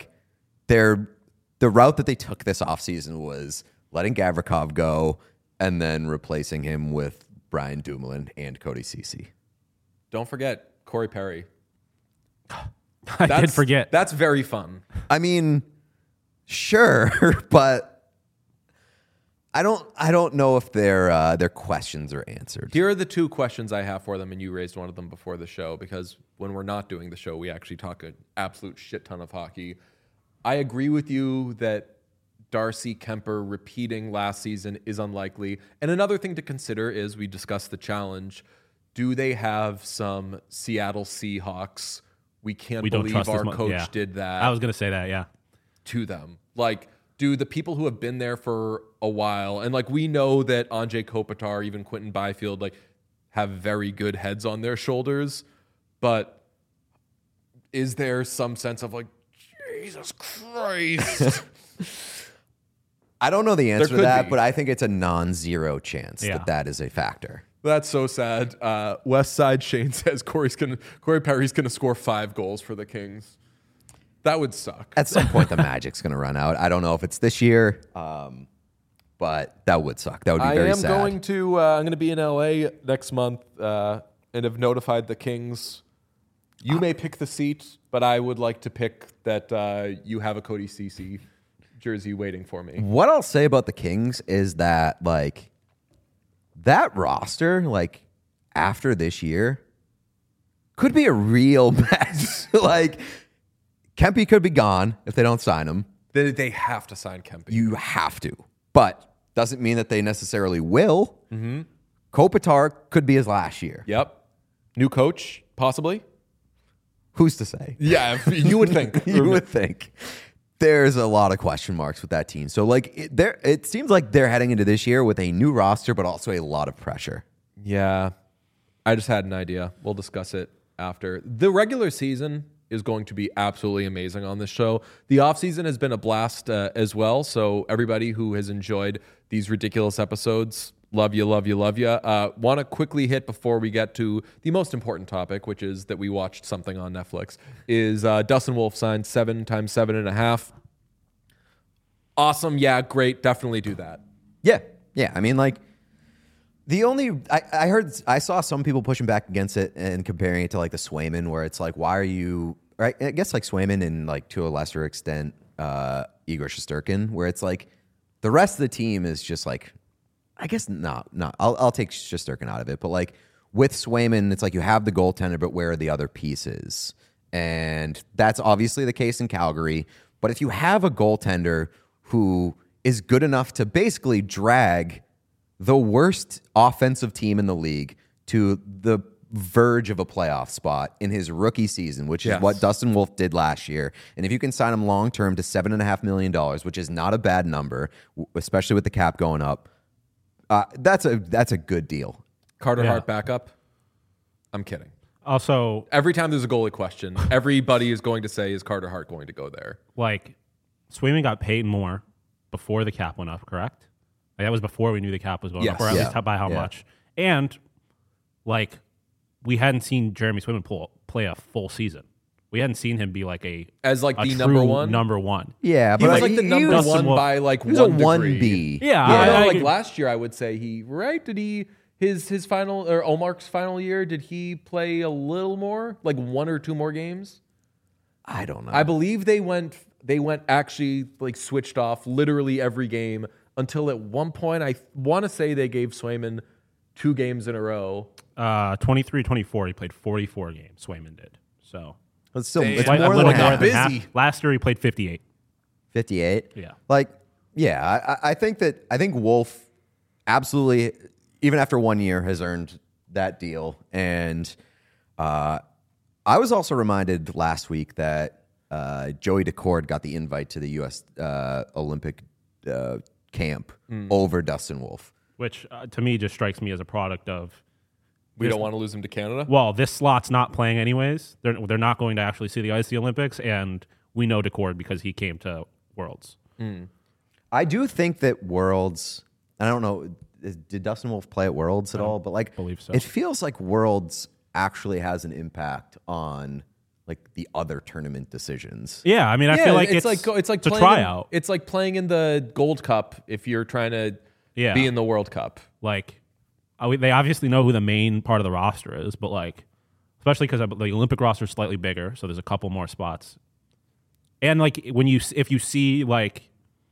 the route that they took this offseason was letting Gavrikov go and then replacing him with Brian Dumoulin and Cody Ceci. Don't forget Corey Perry. I did forget. That's very fun. I mean, sure, but I don't know if their questions are answered. Here are the two questions I have for them, and you raised one of them before the show, because when we're not doing the show, we actually talk an absolute shit ton of hockey. I agree with you that Darcy Kemper repeating last season is unlikely. And another thing to consider is, we discussed the challenge. Do they have some Seattle Seahawks? We can't believe our coach did that. I was going to say that, yeah. To them. Like, do the people who have been there for a while, and like we know that Anze Kopitar, even Quentin Byfield, like have very good heads on their shoulders, but is there some sense of like, Jesus Christ? I don't know the answer to that, but I think it's a non-zero chance that is a factor. That's so sad. West Side Shane says Corey Perry's going to score 5 goals for the Kings. That would suck. At some point, the Magic's going to run out. I don't know if it's this year, but that would suck. That would be very sad. I'm going to be in LA next month and have notified the Kings You may pick the seat, but I would like to pick that you have a Cody Ceci jersey waiting for me. What I'll say about the Kings is that, like, that roster, like, after this year, could be a real mess. Like, Kempe could be gone if they don't sign him. They have to sign Kempe. You have to. But doesn't mean that they necessarily will. Mm-hmm. Kopitar could be his last year. Yep. New coach, possibly. Who's to say? Yeah, you would think. You would think. There's a lot of question marks with that team. So, like, it seems like they're heading into this year with a new roster, but also a lot of pressure. Yeah. I just had an idea. We'll discuss it after. The regular season is going to be absolutely amazing on this show. The offseason has been a blast as well. So everybody who has enjoyed these ridiculous episodes, love you, love you, love you. Want to quickly hit before we get to the most important topic, which is that we watched something on Netflix, is Dustin Wolf signed 7 times 7.5. Awesome. Yeah, great. Definitely do that. Yeah. Yeah. I mean, like, I saw some people pushing back against it and comparing it to, like, the Swayman, where it's like, why are you, right? I guess, like, Swayman and, like, to a lesser extent, Igor Shesterkin, where it's like the rest of the team is just like, I guess not. I'll take Shesterkin out of it, but, like, with Swayman, it's like you have the goaltender, but where are the other pieces? And that's obviously the case in Calgary. But if you have a goaltender who is good enough to basically drag the worst offensive team in the league to the verge of a playoff spot in his rookie season, which is what Dustin Wolf did last year. And if you can sign him long-term to $7.5 million, which is not a bad number, especially with the cap going up, that's a good deal. Carter Hart backup? I'm kidding. Also, every time there's a goalie question, everybody is going to say, is Carter Hart going to go there? Like, Swayman got paid more before the cap went up, correct? Like, that was before we knew the cap was going up, or at least by how much. And, like, we hadn't seen Jeremy Swayman play a full season. We hadn't seen him be like the number one. Number one. Yeah, but he was like the number one by like 1 degree. 1B. Yeah, like last year, I would say did he his final, or Omark's final year? Did he play a little more, like 1 or 2 more games? I don't know. I believe they went actually, like, switched off literally every game until at one point I want to say they gave Swayman 2 games in a row. 23-24, he played 44 games. Swayman did. So it's still it's more than busy. Half. Last year he played 58. 58. Yeah. Like, yeah, I think Wolf absolutely, even after 1 year, has earned that deal. And I was also reminded last week that Joey Decord got the invite to the U.S. Olympic camp over Dustin Wolf. Which, to me, just strikes me as a product of... We don't want to lose him to Canada? Well, this slot's not playing anyways. They're not going to actually see the ice at the Olympics, and we know Decord because he came to Worlds. I do think that Worlds... I don't know, did Dustin Wolf play at Worlds at all? But, like, believe so. It feels like Worlds actually has an impact on, like, the other tournament decisions. Yeah, I mean, I feel like it's like a tryout. It's like playing in the Gold Cup if you're trying to be in the World Cup. Like, they obviously know who the main part of the roster is, but, like, especially because the Olympic roster is slightly bigger, so there's a couple more spots. And, like, if you see, like,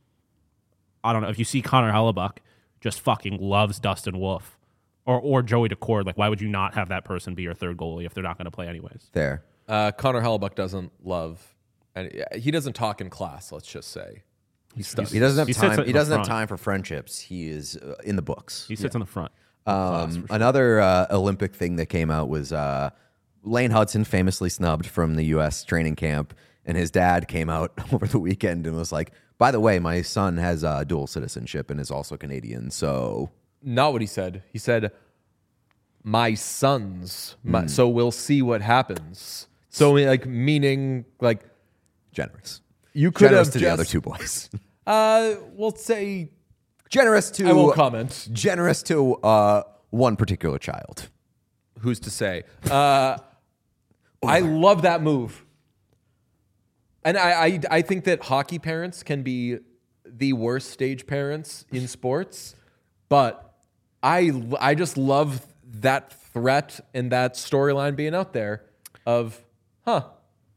I don't know, if you see Connor Hellebuck just fucking loves Dustin Wolf or Joey Decord, like, why would you not have that person be your third goalie if they're not going to play anyways? There. Connor Hellebuck doesn't love, and he doesn't talk in class. Let's just say he doesn't have time. He doesn't have time for friendships. He is in the books. He sits in the front. Another Olympic thing that came out was Lane Hudson famously snubbed from the U.S. training camp, and his dad came out over the weekend and was like, "By the way, my son has dual citizenship and is also Canadian." So, not what he said. He said, "My sons." So we'll see what happens. So, like, meaning, like, generous. You could generous have to the other 2 boys. We'll say generous to. I won't comment. Generous to one particular child. Who's to say? I love that move. And I think that hockey parents can be the worst stage parents in sports, but I just love that threat and that storyline being out there of Huh.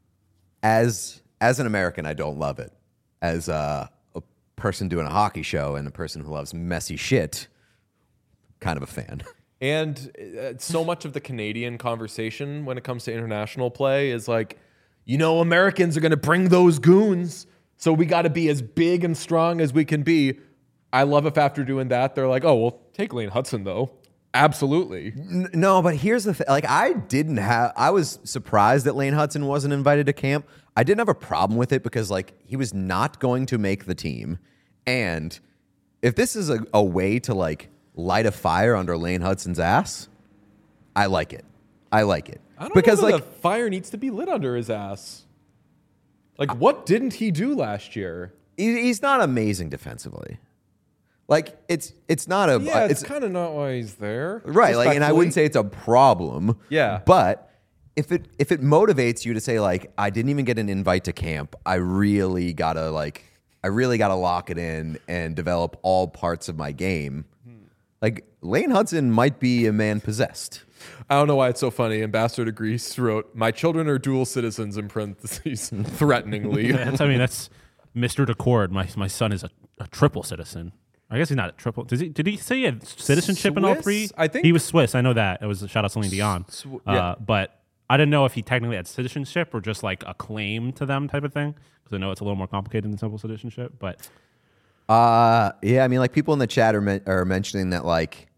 As an American, I don't love it. As a person doing a hockey show and a person who loves messy shit, kind of a fan. And so much of the Canadian conversation when it comes to international play is like, Americans are going to bring those goons, so we got to be as big and strong as we can be. I love if after doing that, they're like, oh, well, take Lane Hudson, though. Absolutely. No, but here's the thing. Like, I was surprised that Lane Hudson wasn't invited to camp. I didn't have a problem with it because, like, he was not going to make the team. And if this is a way to, like, light a fire under Lane Hudson's ass, I like it. I like it. I don't know that the fire needs to be lit under his ass. Like, what didn't he do last year? He's not amazing defensively. Like, it's not a... Yeah, it's kind of not why he's there. Right, like, and I wouldn't say it's a problem. Yeah. But if it motivates you to say, like, I didn't even get an invite to camp, I really gotta lock it in and develop all parts of my game. Like, Lane Hudson might be a man possessed. I don't know why it's so funny. Ambassador to Greece wrote, "My children are dual citizens," in parentheses, threateningly. That's Mr. Decord. My son is a triple citizen. I guess he's not a triple. Did he say he had citizenship Swiss? in all three? I think he was Swiss. I know that. It was a shout out Celine Dion. Yeah. But I didn't know if he technically had citizenship or just like a claim to them type of thing. Because I know it's a little more complicated than simple citizenship. But yeah, I mean, like, people in the chat are mentioning that, like,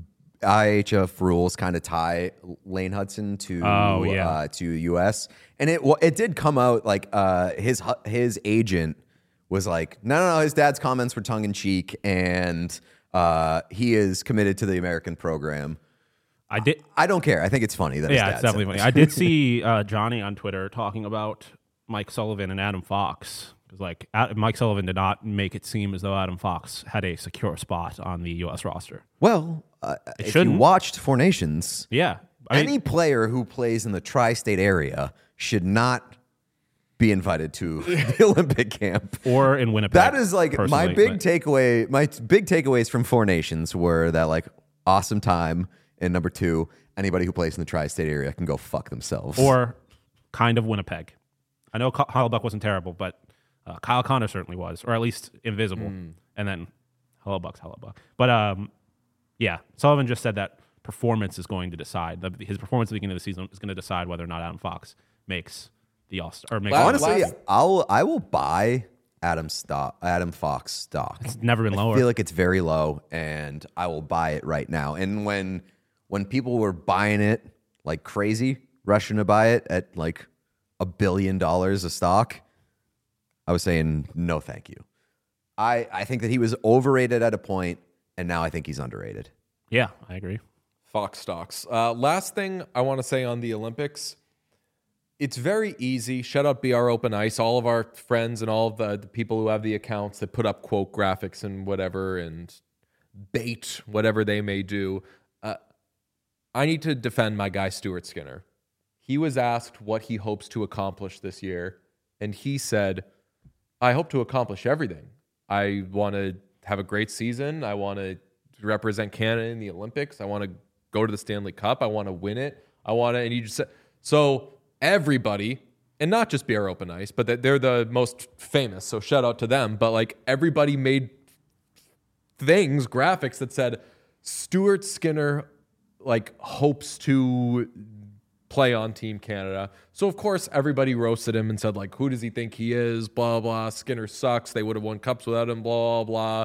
IHF rules kind of tie Lane Hudson to US, and it did come out like his agent was like, no, his dad's comments were tongue in cheek, and he is committed to the American program. I don't care. I think it's funny that his dad it's definitely funny. I did see Johnny on Twitter talking about Mike Sullivan and Adam Fox. Because, like, Mike Sullivan did not make it seem as though Adam Fox had a secure spot on the U.S. roster. Well, if you watched Four Nations, any player who plays in the tri-state area should not be invited to the Olympic camp or in Winnipeg. That is like my big takeaway. My big takeaways from Four Nations were that, like, awesome time, and number two, anybody who plays in the tri-state area can go fuck themselves. Or kind of Winnipeg. I know Hellebuck wasn't terrible, but Kyle Connor certainly was, or at least invisible. And then Hellebuck's Hellebuck. But yeah, Sullivan just said that performance is going to decide. His performance at the beginning of the season is going to decide whether or not Adam Fox makes the All-Star. Honestly, I will buy Adam Fox stock. It's never been lower. I feel like it's very low, and I will buy it right now. And when people were buying it like crazy, rushing to buy it at like $1 billion a stock, I was saying, no, thank you. I think that he was overrated at a point, and now I think he's underrated. Yeah, I agree. Fox stocks. Last thing I want to say on the Olympics, it's very easy. Shout out BR Open Ice, all of our friends and all of the people who have the accounts that put up quote graphics and whatever and bait whatever they may do. I need to defend my guy Stuart Skinner. He was asked what he hopes to accomplish this year, and he said, I hope to accomplish everything. I want to have a great season. I want to represent Canada in the Olympics. I want to go to the Stanley Cup. I want to win it. And he just said, so everybody, and not just BR Open Ice, but they're the most famous, so shout out to them. But like everybody made graphics that said Stuart Skinner like hopes to play on Team Canada. So, of course, everybody roasted him and said, like, who does he think he is? Blah, blah. Skinner sucks. They would have won cups without him. Blah, blah.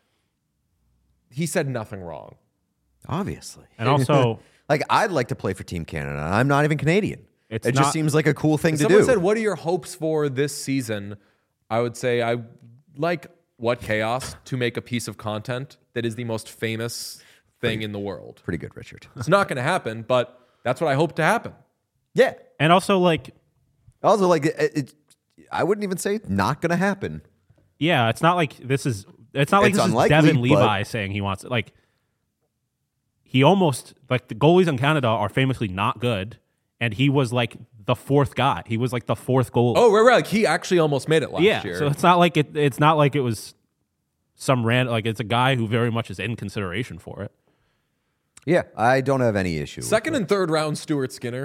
He said nothing wrong. Obviously. And also, like, I'd like to play for Team Canada. I'm not even Canadian. It just seems like a cool thing to do. Someone said, what are your hopes for this season? I would say I like What Chaos to make a piece of content that is the most famous thing in the world. Pretty good, Richard. It's not going to happen, but that's what I hope to happen. Yeah. And also, like... I wouldn't even say not going to happen. Yeah, it's not like this is... It's not like this is Devin Levi saying he wants it. Like, he almost... Like, the goalies in Canada are famously not good, and he was, like, the fourth guy. He was, like, the fourth goalie. Oh, right. Like, he actually almost made it last year. Yeah, so it's not like it's not like it was some random... Like, it's a guy who very much is in consideration for it. Yeah, I don't have any issue. Second and third round Stuart Skinner.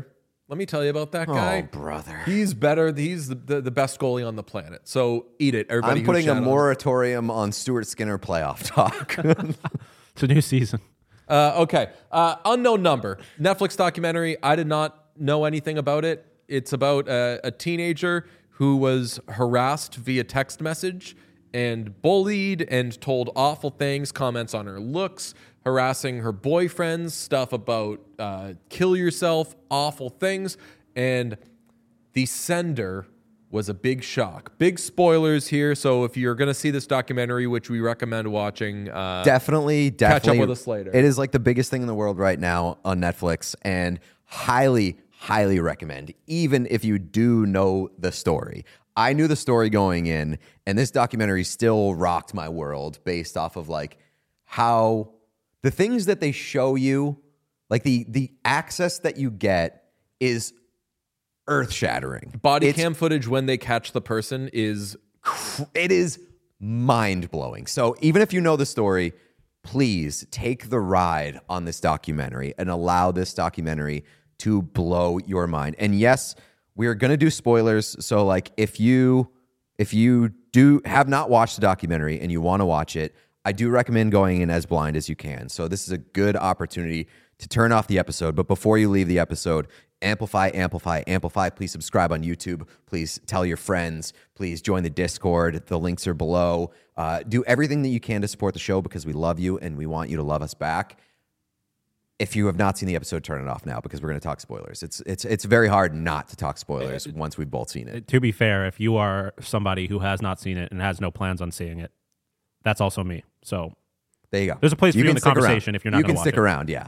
Let me tell you about that guy. Oh, brother. He's better. He's the best goalie on the planet. So eat it, everybody. I'm putting a moratorium on Stuart Skinner playoff talk. It's a new season. Okay. Unknown Number. Netflix documentary. I did not know anything about it. It's about a teenager who was harassed via text message and bullied and told awful things, comments on her looks, harassing her boyfriends, stuff about kill yourself, awful things. And the sender was a big shock. Big spoilers here. So if you're going to see this documentary, which we recommend watching, definitely catch up with us later. It is like the biggest thing in the world right now on Netflix, and highly recommend, even if you do know the story. I knew the story going in, and this documentary still rocked my world based off of like how the things that they show you, like the access that you get is earth-shattering. Body cam footage when they catch the person is mind-blowing. So even if you know the story, please take the ride on this documentary and allow this documentary to blow your mind. And yes, we're going to do spoilers. So like if you do have not watched the documentary and you want to watch it, I do recommend going in as blind as you can. So this is a good opportunity to turn off the episode. But before you leave the episode, amplify. Please subscribe on YouTube. Please tell your friends. Please join the Discord. The links are below. Do everything that you can to support the show because we love you and we want you to love us back. If you have not seen the episode, turn it off now because we're going to talk spoilers. It's very hard not to talk spoilers once we've both seen it. To be fair, if you are somebody who has not seen it and has no plans on seeing it, that's also me. So there you go. There's a place for you in the conversation if you're not going to watch it. You can stick around, yeah.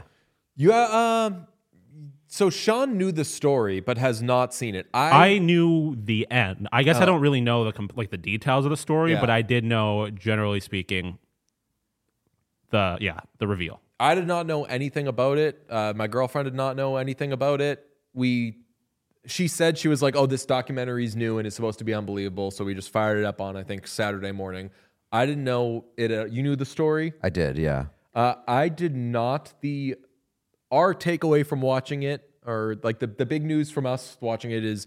So Sean knew the story but has not seen it. I knew the end. I guess I don't really know the details of the story, but I did know, generally speaking, the reveal. I did not know anything about it. My girlfriend did not know anything about it. She said, she was like, oh, this documentary is new and it's supposed to be unbelievable. So we just fired it up on, I think, Saturday morning. I didn't know it. You knew the story? I did, yeah. I did not. Our takeaway from watching it, or like the big news from us watching it is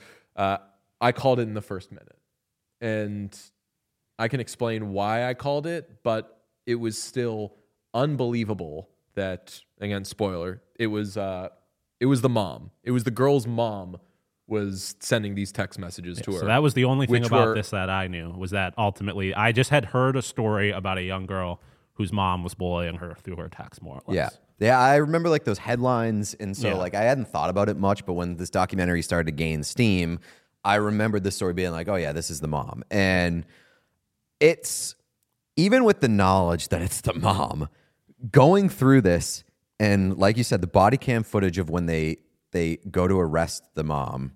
I called it in the first minute. And I can explain why I called it, but it was still unbelievable that, again, spoiler, it was the mom. It was the girl's mom was sending these text messages to her. So that was the only thing about this that I knew, was that ultimately I just had heard a story about a young girl whose mom was bullying her through her text, more or less. Yeah, I remember like those headlines, and so like I hadn't thought about it much, but when this documentary started to gain steam, I remembered the story being like, oh yeah, this is the mom. And it's, even with the knowledge that it's the mom, going through this, and like you said, the body cam footage of when they go to arrest the mom,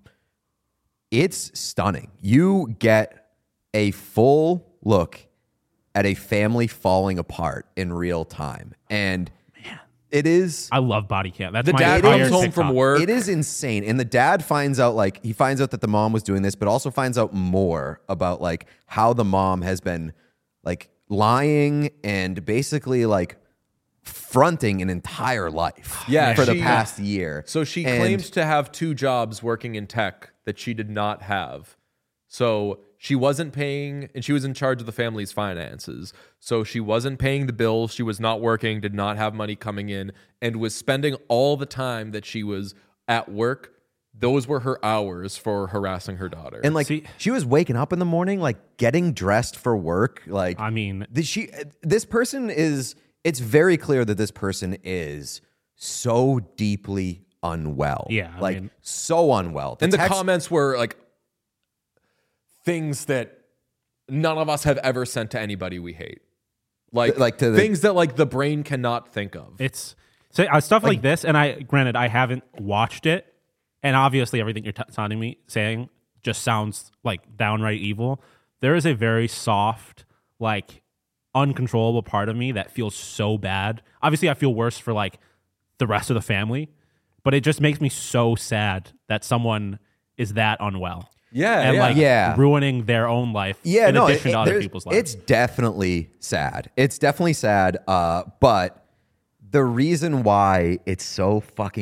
it's stunning. You get a full look at a family falling apart in real time. And it is... I love body cam. That's the dad comes home from work. It is insane. And the dad finds out that the mom was doing this, but also finds out more about like how the mom has been like lying and basically like fronting an entire life for the past year. So she claims to have 2 jobs working in tech that she did not have. So she wasn't paying, and she was in charge of the family's finances. So she wasn't paying the bills. She was not working, did not have money coming in, and was spending all the time that she was at work. Those were her hours for harassing her daughter. And like she was waking up in the morning, like getting dressed for work. Like, I mean, this person is, it's very clear that this person is so deeply unwell. Yeah. I mean, so unwell. The comments were like things that none of us have ever sent to anybody we hate. Things that like the brain cannot think of. It's stuff like this. And I haven't watched it. And obviously everything you're saying just sounds like downright evil. There is a very soft, like uncontrollable part of me that feels so bad. Obviously I feel worse for like the rest of the family, but it just makes me so sad that someone is that unwell. Ruining their own life in addition to other people's lives. It's definitely sad. But the reason why it's so fucking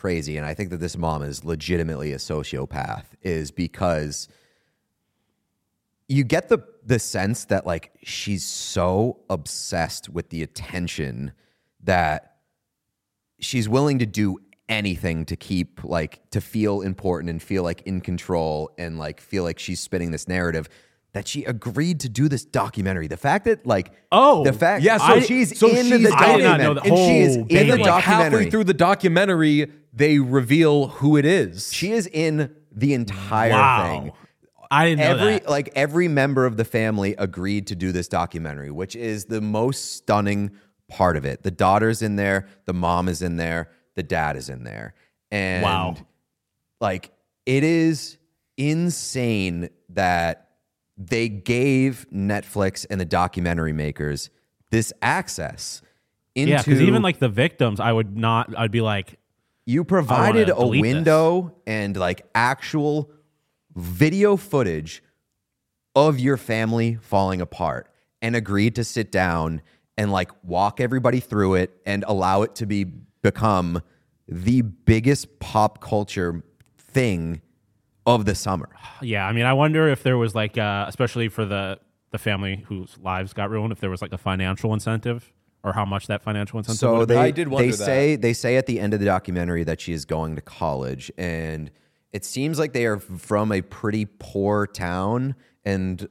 crazy, and I think that this mom is legitimately a sociopath, is because you get the sense that like she's so obsessed with the attention that she's willing to do anything to keep like to feel important and feel like in control and like feel like she's spinning this narrative that she agreed to do this documentary. The fact that like she's in the documentary. I did not know the whole she is in the like documentary. Halfway through the documentary, they reveal who it is. She is in the entire thing. I didn't know that. Like every member of the family agreed to do this documentary, which is the most stunning part of it. The daughter's in there, the mom is in there, the dad is in there. And like it is insane that they gave Netflix and the documentary makers this access into because even like the victims, I'd be like, you provided a delete window and like actual video footage of your family falling apart and agreed to sit down and like walk everybody through it and allow it to become the biggest pop culture thing of the summer. Yeah, I mean, I wonder if there was like, especially for the family whose lives got ruined, if there was like a financial incentive or how much that financial incentive. So I did wonder they say at the end of the documentary that she is going to college, and it seems like they are from a pretty poor town, and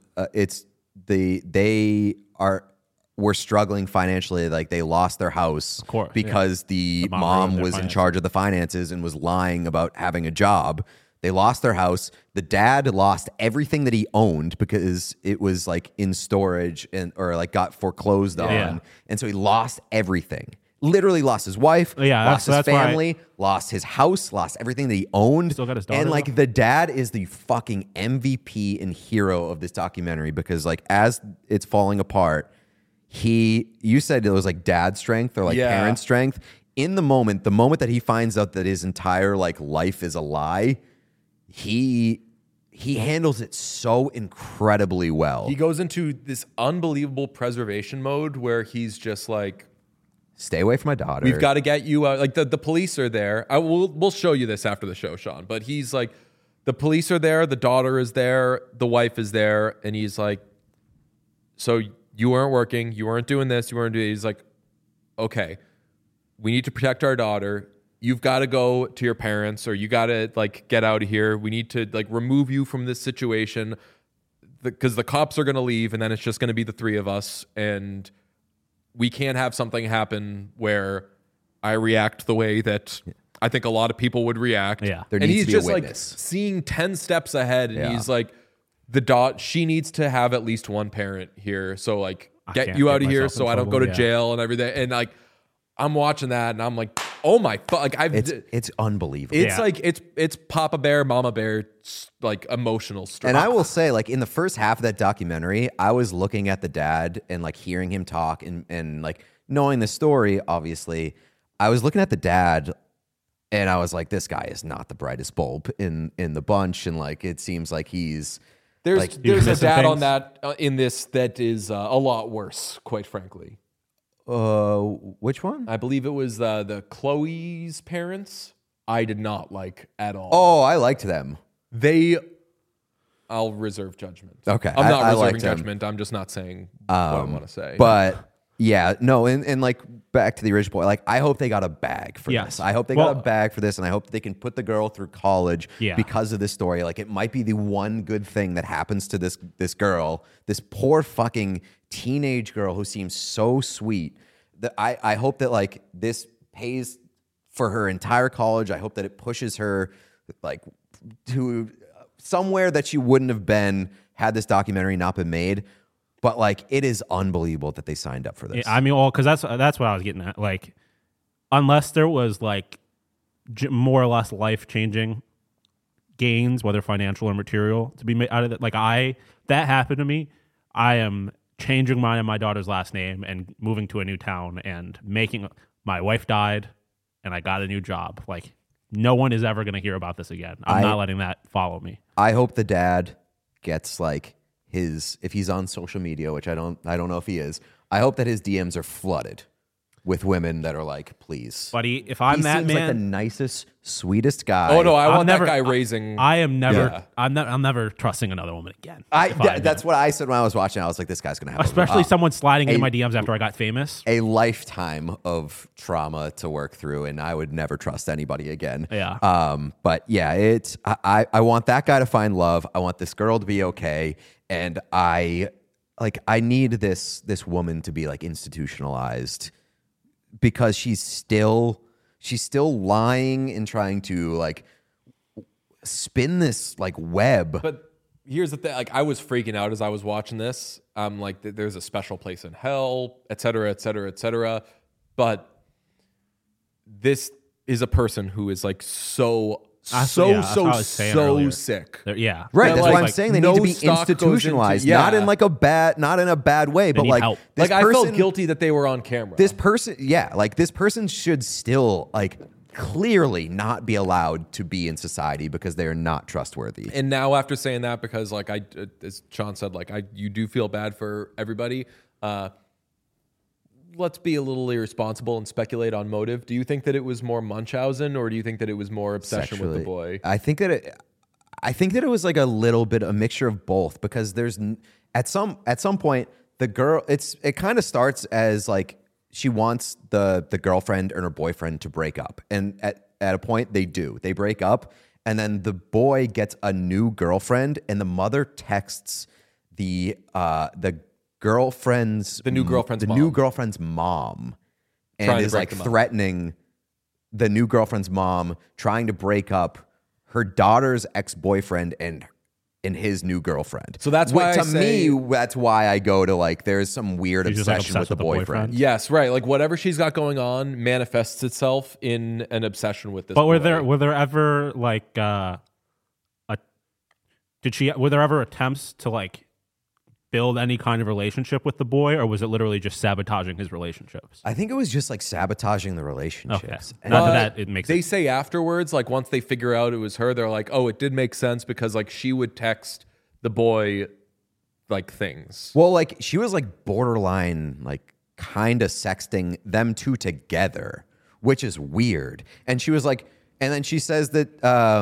were struggling financially. Like they lost their house because the mom was in charge of the finances and was lying about having a job. They lost their house. The dad lost everything that he owned because it was like in storage or like got foreclosed on. And so he lost everything. Literally lost his wife, lost his family, lost his house, lost everything that he owned. Still got his daughter. And like the dad is the fucking MVP and hero of this documentary because like as it's falling apart, you said it was like dad strength or like parent strength. In the moment that he finds out that his entire like life is a lie, he handles it so incredibly well. He goes into this unbelievable preservation mode where he's just like, stay away from my daughter. We've got to get you out. Like the police are there. We'll show you this after the show, Sean. But he's like, the police are there. The daughter is there. The wife is there. And he's like, so you weren't working. You weren't doing this. You weren't doing. He's like, okay, we need to protect our daughter. You've got to go to your parents, or you got to like get out of here. We need to like remove you from this situation because the cops are going to leave, and then it's just going to be the three of us, and we can't have something happen where I react the way that I think a lot of people would react. Yeah, there and needs he's to be a just like witness. seeing 10 steps ahead, and he's like, she needs to have at least one parent here, so like get you out of here, so I don't go to jail and everything, and like. I'm watching that and I'm like, oh my fuck! Like it's unbelievable. It's like it's Papa Bear, Mama Bear, like emotional stuff. And I will say, like in the first half of that documentary, I was looking at the dad and like hearing him talk and like knowing the story. Obviously, I was looking at the dad and I was like, this guy is not the brightest bulb in the bunch, and like it seems like he's there's a dad on that in this that is a lot worse, quite frankly. Which one? I believe it was the Chloe's parents. I did not like at all. Oh, I liked them. I'll reserve judgment. Okay. I'm not I reserving liked them. judgment. I'm just not saying what I want to say. But yeah, no, and like back to the original point, like I hope they got a bag for this. I hope they got a bag for this, and I hope they can put the girl through college because of this story. Like it might be the one good thing that happens to this girl, this poor fucking teenage girl who seems so sweet. That I hope that like this pays for her entire college. I hope that it pushes her like to somewhere that she wouldn't have been had this documentary not been made. But like it is unbelievable that they signed up for this. I mean, because that's what I was getting at. Like, unless there was like more or less life-changing gains, whether financial or material, to be made out of it. Like that happened to me. I am changing mine and my daughter's last name and moving to a new town and my wife died and I got a new job. Like no one is ever going to hear about this again. I'm not letting that follow me. I hope the dad gets like if he's on social media, which I don't know if he is. I hope that his DMs are flooded with women that are like, please, buddy. If I'm he that seems man, like the nicest, sweetest guy. Oh no, I I'm want never- that guy raising. I am never. Yeah. I'm never trusting another woman again. That's what I said when I was watching. I was like, this guy's gonna have especially someone sliding into a- my DMs after I got famous. a lifetime of trauma to work through, and I would never trust anybody again. Yeah. But yeah, I want that guy to find love. I want this girl to be okay, and I need this woman to be like institutionalized, because she's still lying and trying to like spin this like web. But here's the thing: like, I was freaking out as I was watching this. Like, there's a special place in hell, et cetera, et cetera, et cetera. But this is a person who is like so sick. Yeah. Right, Yeah, that's like- why I'm saying they no need to be stock goes into- institutionalized, yeah. not in a bad way, but need like help. this I person, felt guilty that they were on camera. This person, this person should still like clearly not be allowed to be in society because they are not trustworthy. And now after saying that, because like as Sean said, like you do feel bad for everybody. Let's be a little irresponsible and speculate on motive. Do you think that it was more Munchausen, or do you think that it was more obsession with the boy? I think that it was like a little bit a mixture of both, because there's at some point the girl it kind of starts as like she wants the girlfriend and her boyfriend to break up, and at a point they break up, and then the boy gets a new girlfriend, and the mother texts the new girlfriend's mom, and is like threatening the new girlfriend's mom, trying to break up her daughter's ex-boyfriend and his new girlfriend. So that's why that's why I go to like there's some weird She's just, like, obsession with the boyfriend. Yes, right. Like whatever she's got going on manifests itself in an obsession with this. But boy. were there ever like were there ever attempts to like build any kind of relationship with the boy, or was it literally just sabotaging his relationships? I think it was just like sabotaging the relationships. Okay. Not that it makes They say afterwards, like once they figure out it was her, they're like, oh, it did make sense, because like she would text the boy like things. Well, like she was like borderline, like kind of sexting them two together, which is weird. And she was like, and then she says that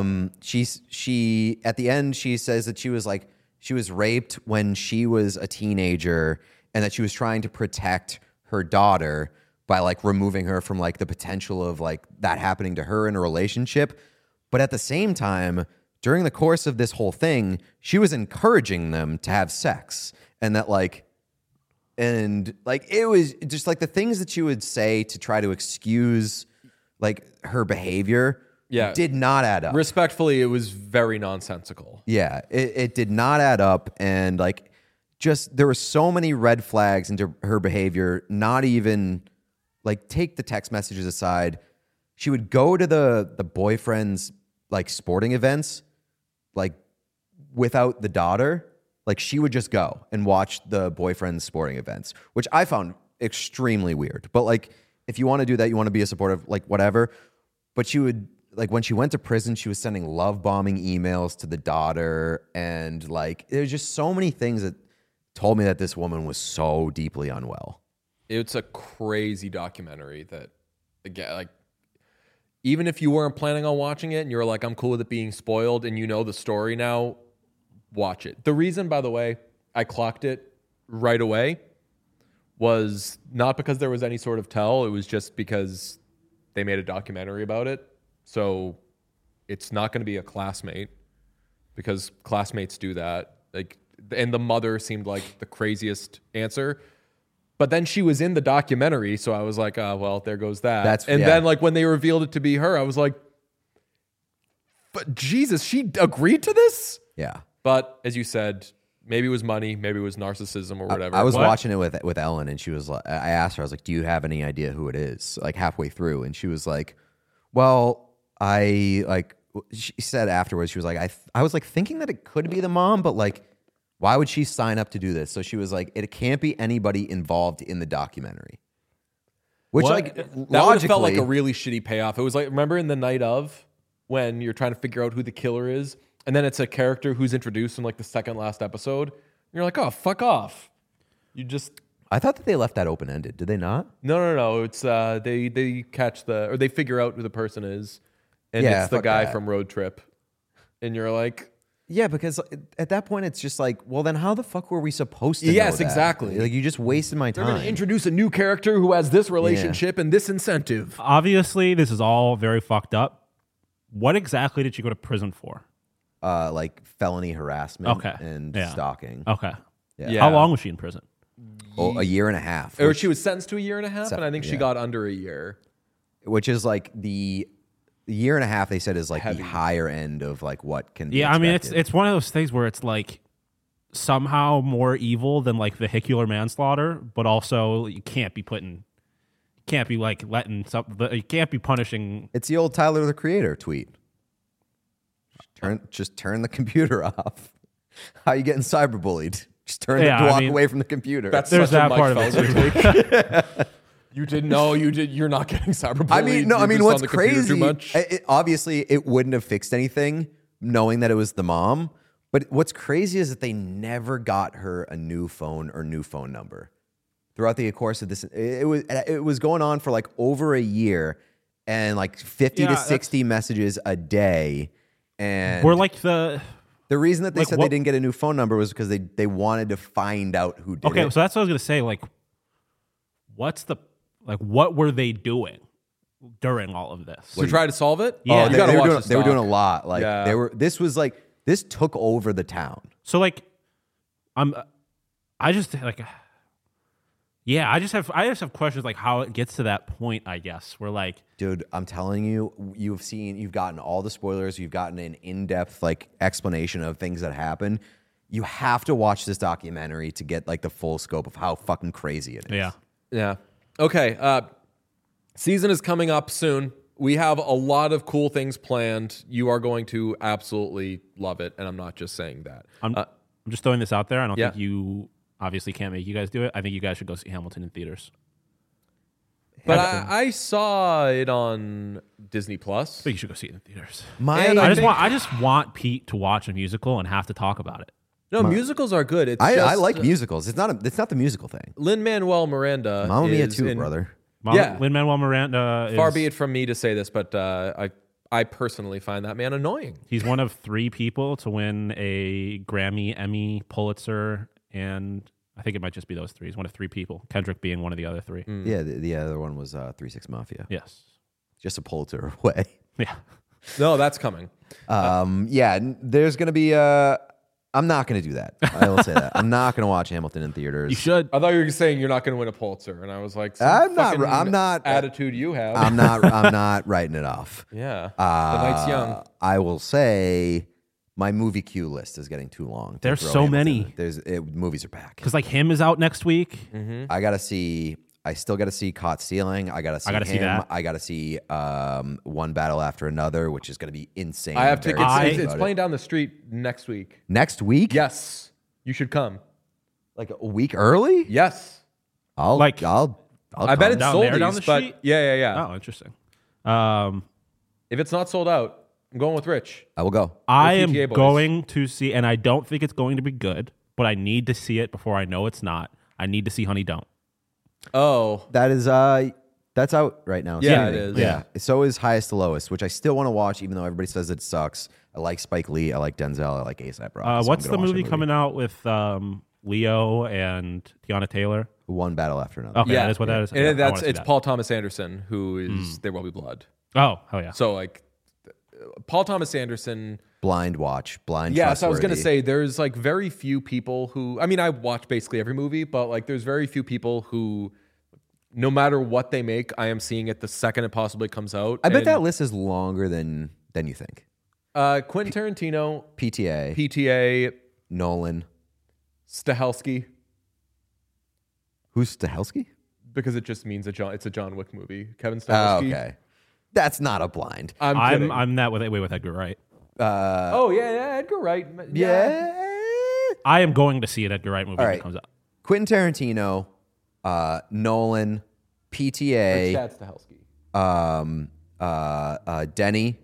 she at the end she says that she was like, she was raped when she was a teenager, and that she was trying to protect her daughter by like removing her from like the potential of like that happening to her in a relationship. But at the same time, during the course of this whole thing, she was encouraging them to have sex, and that like, and like it was just like the things that she would say to try to excuse like her behavior. Yeah. Did not add up. Respectfully, it was very nonsensical. Yeah, it did not add up. And like, just there were so many red flags into her behavior. Not even like, take the text messages aside, she would go to the boyfriend's like sporting events, like without the daughter. Like she would just go and watch the boyfriend's sporting events, which I found extremely weird. But like, if you want to do that, you want to be a supportive, like whatever. But she would, like when she went to prison, she was sending love bombing emails to the daughter. And like, there's just so many things that told me that this woman was so deeply unwell. It's a crazy documentary that, again, like, even if you weren't planning on watching it and you're like, I'm cool with it being spoiled and you know the story now, watch it. The reason, by the way, I clocked it right away was not because there was any sort of tell. It was just because they made a documentary about it. So it's not going to be a classmate, because classmates do that. Like, and the mother seemed like the craziest answer. But then she was in the documentary, so I was like, well, there goes that. Then like when they revealed it to be her, I was like, but Jesus, she agreed to this? Yeah. But as you said, maybe it was money, maybe it was narcissism or whatever. I was watching it with Ellen, and she was like, I asked her, I was like, do you have any idea who it is? Like halfway through. And she was like, well, she said afterwards, she was like, I was like thinking that it could be the mom, but like, why would she sign up to do this? So she was like, it can't be anybody involved in the documentary. Which like that would have felt like a really shitty payoff. It was like, remember in The Night Of, when you're trying to figure out who the killer is, and then it's a character who's introduced in like the second last episode. And you're like, oh, fuck off. You just I thought that they left that open ended. Did they not? No. It's they catch they figure out who the person is, and Yeah, it's the fuck guy that. from Road Trip, and you're like, Yeah, because at that point it's just like, well, then how the fuck were we supposed to? know Yes, that? exactly. Like you just wasted my they're going time. to introduce a new character who has this relationship and this incentive. Obviously, this is all very fucked up. What exactly did you go to prison for? Like felony harassment Okay. and Yeah. stalking. Okay. Yeah. How long was she in prison? Oh, a year and a half. Or she was sentenced to a year and a half, and I think she yeah. got under a year. Which is like the year and a half they said is like Heavy. the higher end of like what can be Yeah, I mean expected. it's one of those things where it's like somehow more evil than like vehicular manslaughter, but also you can't be punishing. It's the old Tyler the Creator tweet. Just turn the computer off. How you getting cyberbullied? Just walk away from the computer. That's There's such that a part Mike of it, Felder take. You didn't know. You're not getting cyberbullied. I mean, You're just what's on the computer crazy? Too much. Obviously, it wouldn't have fixed anything knowing that it was the mom. But what's crazy is that they never got her a new phone or new phone number throughout the course of this. It was going on for like over a year, and like 50 to 60 messages a day. And We're like the reason that they like said what- they didn't get a new phone number was because they wanted to find out who did it. okay. So that's what I was gonna say. Like, what were they doing during all of this? To try to solve it? Yeah. You gotta watch they were doing a doc. lot. Like Yeah. this took over the town. So like, I just like, yeah, I just have questions like how it gets to that point. I guess we're like, Dude, I'm telling you, you've gotten all the spoilers. You've gotten an in-depth like explanation of things that happen. You have to watch this documentary to get like the full scope of how fucking crazy it is. yeah, Yeah. Okay. Season is coming up soon. We have a lot of cool things planned. You are going to absolutely love it, and I'm not just saying that. I'm just throwing this out there. I don't Yeah. think you obviously can't make you guys do it. I think you guys should go see Hamilton in theaters. But I saw it on Disney Plus. I think you should go see it in theaters. And I just want Pete to watch a musical and have to talk about it. No, musicals are good. It's I just, like musicals. It's not the musical thing. Lin-Manuel Miranda. Mamma Mia is too, in- brother. Yeah. Lin-Manuel Miranda. Far be it from me to say this, but I personally find that man annoying. He's one of 3 people to win a Grammy, Emmy, Pulitzer, and I think it might just be those 3. He's one of 3 people. Kendrick being one of the other 3. Yeah, the other one was 3 6 Mafia. Yes. Just a Pulitzer away. Yeah. No, that's coming. There's gonna be I'm not going to do that. I will say that. I'm not going to watch Hamilton in theaters. You should. I thought you were saying you're not going to win a Pulitzer, and I was like, I'm not attitude you have. I'm not writing it off. Yeah, the night's young. I will say my movie queue list is getting too long. to There's throw so Hamilton many. in. Movies are back. Because like him is out next week. I still got to see Caught Stealing. I got to see gotta him. see that. I got to see One Battle After Another, which is going to be insane. I have I'm very tickets. excited It's about it. playing down the street next week. Next week. Yes, you should come. Like a week early. Yes, I'll Like- I'll I bet it's Down sold. there, down the but street? yeah. Oh, interesting. If it's not sold out, I'm going with Rich. I will go. I am PTA boys. going to see, and I don't think it's going to be good, but I need to see it before I know it's not. I need to see Honey Don't. Oh, That is that's out right now. Yeah, Streaming. it is. Yeah. So is Highest to Lowest, which I still want to watch, even though everybody says it sucks. I like Spike Lee. I like Denzel. I like A$AP Rocky. So What's I'm the gonna watch movie that coming out with Leo and Tiana Taylor? One Battle After Another. Okay, that is what that is. and Yeah, I wanna that's see it's that. Paul Thomas Anderson who is There Will Be Blood. Oh, hell yeah. So like, Paul Thomas Anderson. Blind watch. Blind. Yeah, so I was gonna Trustworthy. say there's like very few people who. I mean, I watch basically every movie, but like there's very few people who, no matter what they make, I am seeing it the second it possibly comes out. I bet And, that list is longer than you think. Quentin Tarantino, PTA, PTA, Nolan. Stahelski, Who's Stahelski? because it just means it's a John Wick movie. Kevin Oh, Stahelski. okay. That's not a blind. I'm kidding. I'm that way with Edgar Wright. Oh yeah, Edgar Wright. Yeah. I am going to see an Edgar Wright movie All when right. it comes out. Quentin Tarantino, Nolan, PTA, Chad Stahelski. Denny,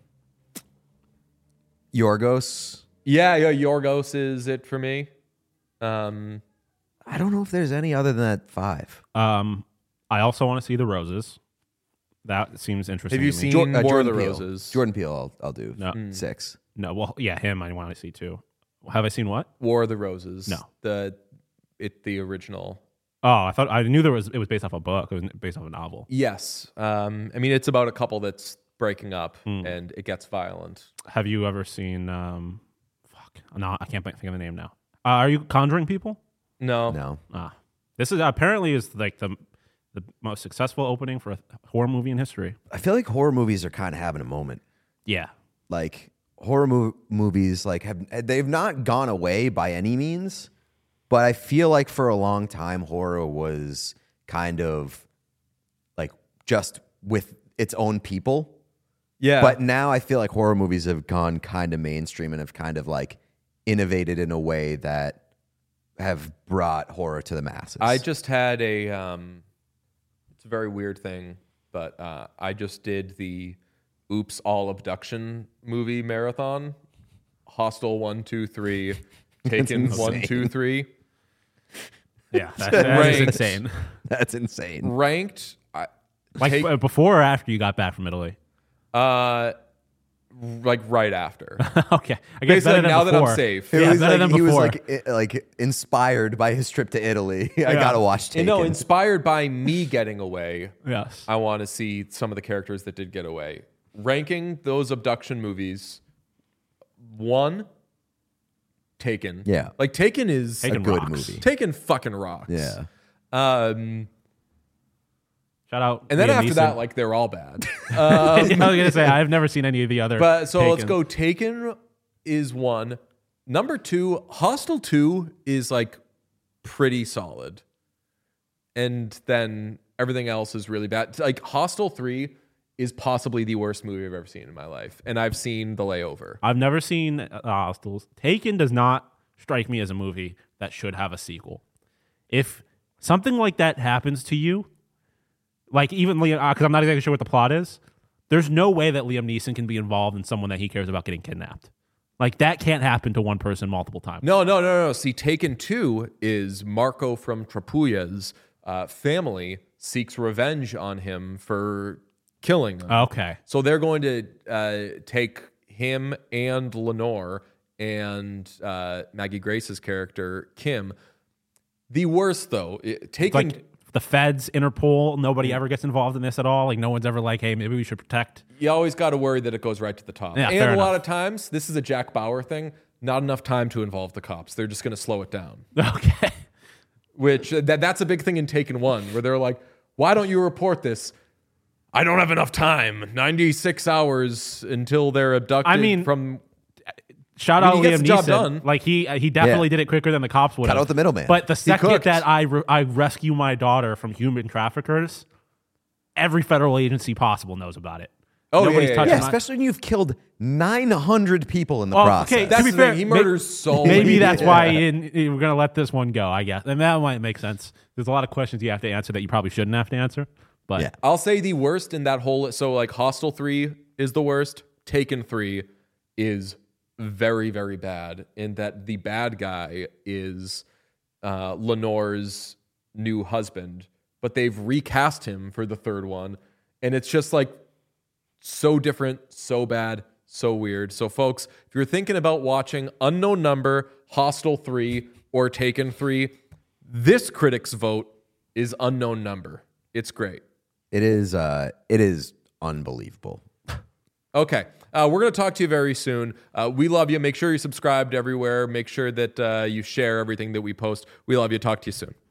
Yorgos. Yeah, Yorgos is it for me. I don't know if there's any other than that 5. I also want to see The Roses. That seems interesting. Have you to me. seen War of the Peele. Roses? Jordan Peele, I'll do. No. 6. No, well, yeah, him I want to see too. Have I seen what? War of the Roses. No. The original. Oh, I knew it was based off a book. It was based off a novel. Yes. I mean, it's about a couple that's breaking up and it gets violent. Have you ever seen? No, I can't think of the name now. Are you Conjuring People? No. This is apparently is like the most successful opening for a horror movie in history. I feel like horror movies are kind of having a moment. Yeah. Like horror movies, like they've not gone away by any means, but I feel like for a long time horror was kind of like just with its own people. Yeah. But now I feel like horror movies have gone kind of mainstream and have kind of like innovated in a way that have brought horror to the masses. I just had it's a very weird thing, but I just did the Oops All Abduction movie marathon. Hostel 1, 2, 3, Taken 1, 2, 3. Yeah, that is insane. That's insane. Ranked before or after you got back from Italy? Like right after. Okay, I guess Basically, better now than that before. I'm safe. It Yeah, was better like, than he was before. like inspired by his trip to Italy. I gotta watch Taken. No, inspired by me getting away. Yes. I want to see some of the characters that did get away. Ranking those abduction movies, 1, Taken. Yeah. Like Taken is Taken a good rocks. movie. Taken fucking rocks. Yeah. Shout out. And then Liam after Neeson. that, like they're all bad. I was gonna say I've never seen any of the other. But so let's Takens. go. Taken is 1. Number 2, Hostel 2 is like pretty solid. And then everything else is really bad. Like Hostel 3 is possibly the worst movie I've ever seen in my life. And I've seen The Layover. I've never seen Hostels. Taken does not strike me as a movie that should have a sequel. If something like that happens to you, like even Liam, because I'm not exactly sure what the plot is, there's no way that Liam Neeson can be involved in someone that he cares about getting kidnapped. Like that can't happen to one person multiple times. No. See, Taken 2 is Marco from Trapulla's family seeks revenge on him for killing them. Okay. So they're going to take him and Lenore and Maggie Grace's character, Kim. The worst, though, Taken... Like the feds, Interpol, nobody ever gets involved in this at all. Like no one's ever like, hey, maybe we should protect. You always got to worry that it goes right to the top. Yeah, and fair a lot enough. of times, this is a Jack Bauer thing, not enough time to involve the cops. They're just going to slow it down. Okay. Which, that's a big thing in Taken 1, where they're like, why don't you report this? I don't have enough time. 96 hours until they're abducted from... Shout I out mean, he gets Liam the job Neeson. done. Like he definitely did it quicker than the cops would Cut have. out the middleman. But the second cooked. that I rescue my daughter from human traffickers, every federal agency possible knows about it. Oh, Nobody's yeah, touching Yeah, my- especially when you've killed 900 people in the Oh, process. okay, That's to be the fair, thing. He murders so many Maybe that's people. why we're going to let this one go, I guess. And that might make sense. There's a lot of questions you have to answer that you probably shouldn't have to answer. But Yeah. I'll say the worst in that whole... So, like, Hostel 3 is the worst. Taken 3 is very, very bad in that the bad guy is Lenore's new husband, but they've recast him for the third one. And it's just, like, so different, so bad, so weird. So, folks, if you're thinking about watching Unknown Number, Hostel 3, or Taken 3, this critic's vote is Unknown Number. It's great. It is unbelievable. Okay. We're going to talk to you very soon. We love you. Make sure you're subscribed everywhere. Make sure that you share everything that we post. We love you. Talk to you soon.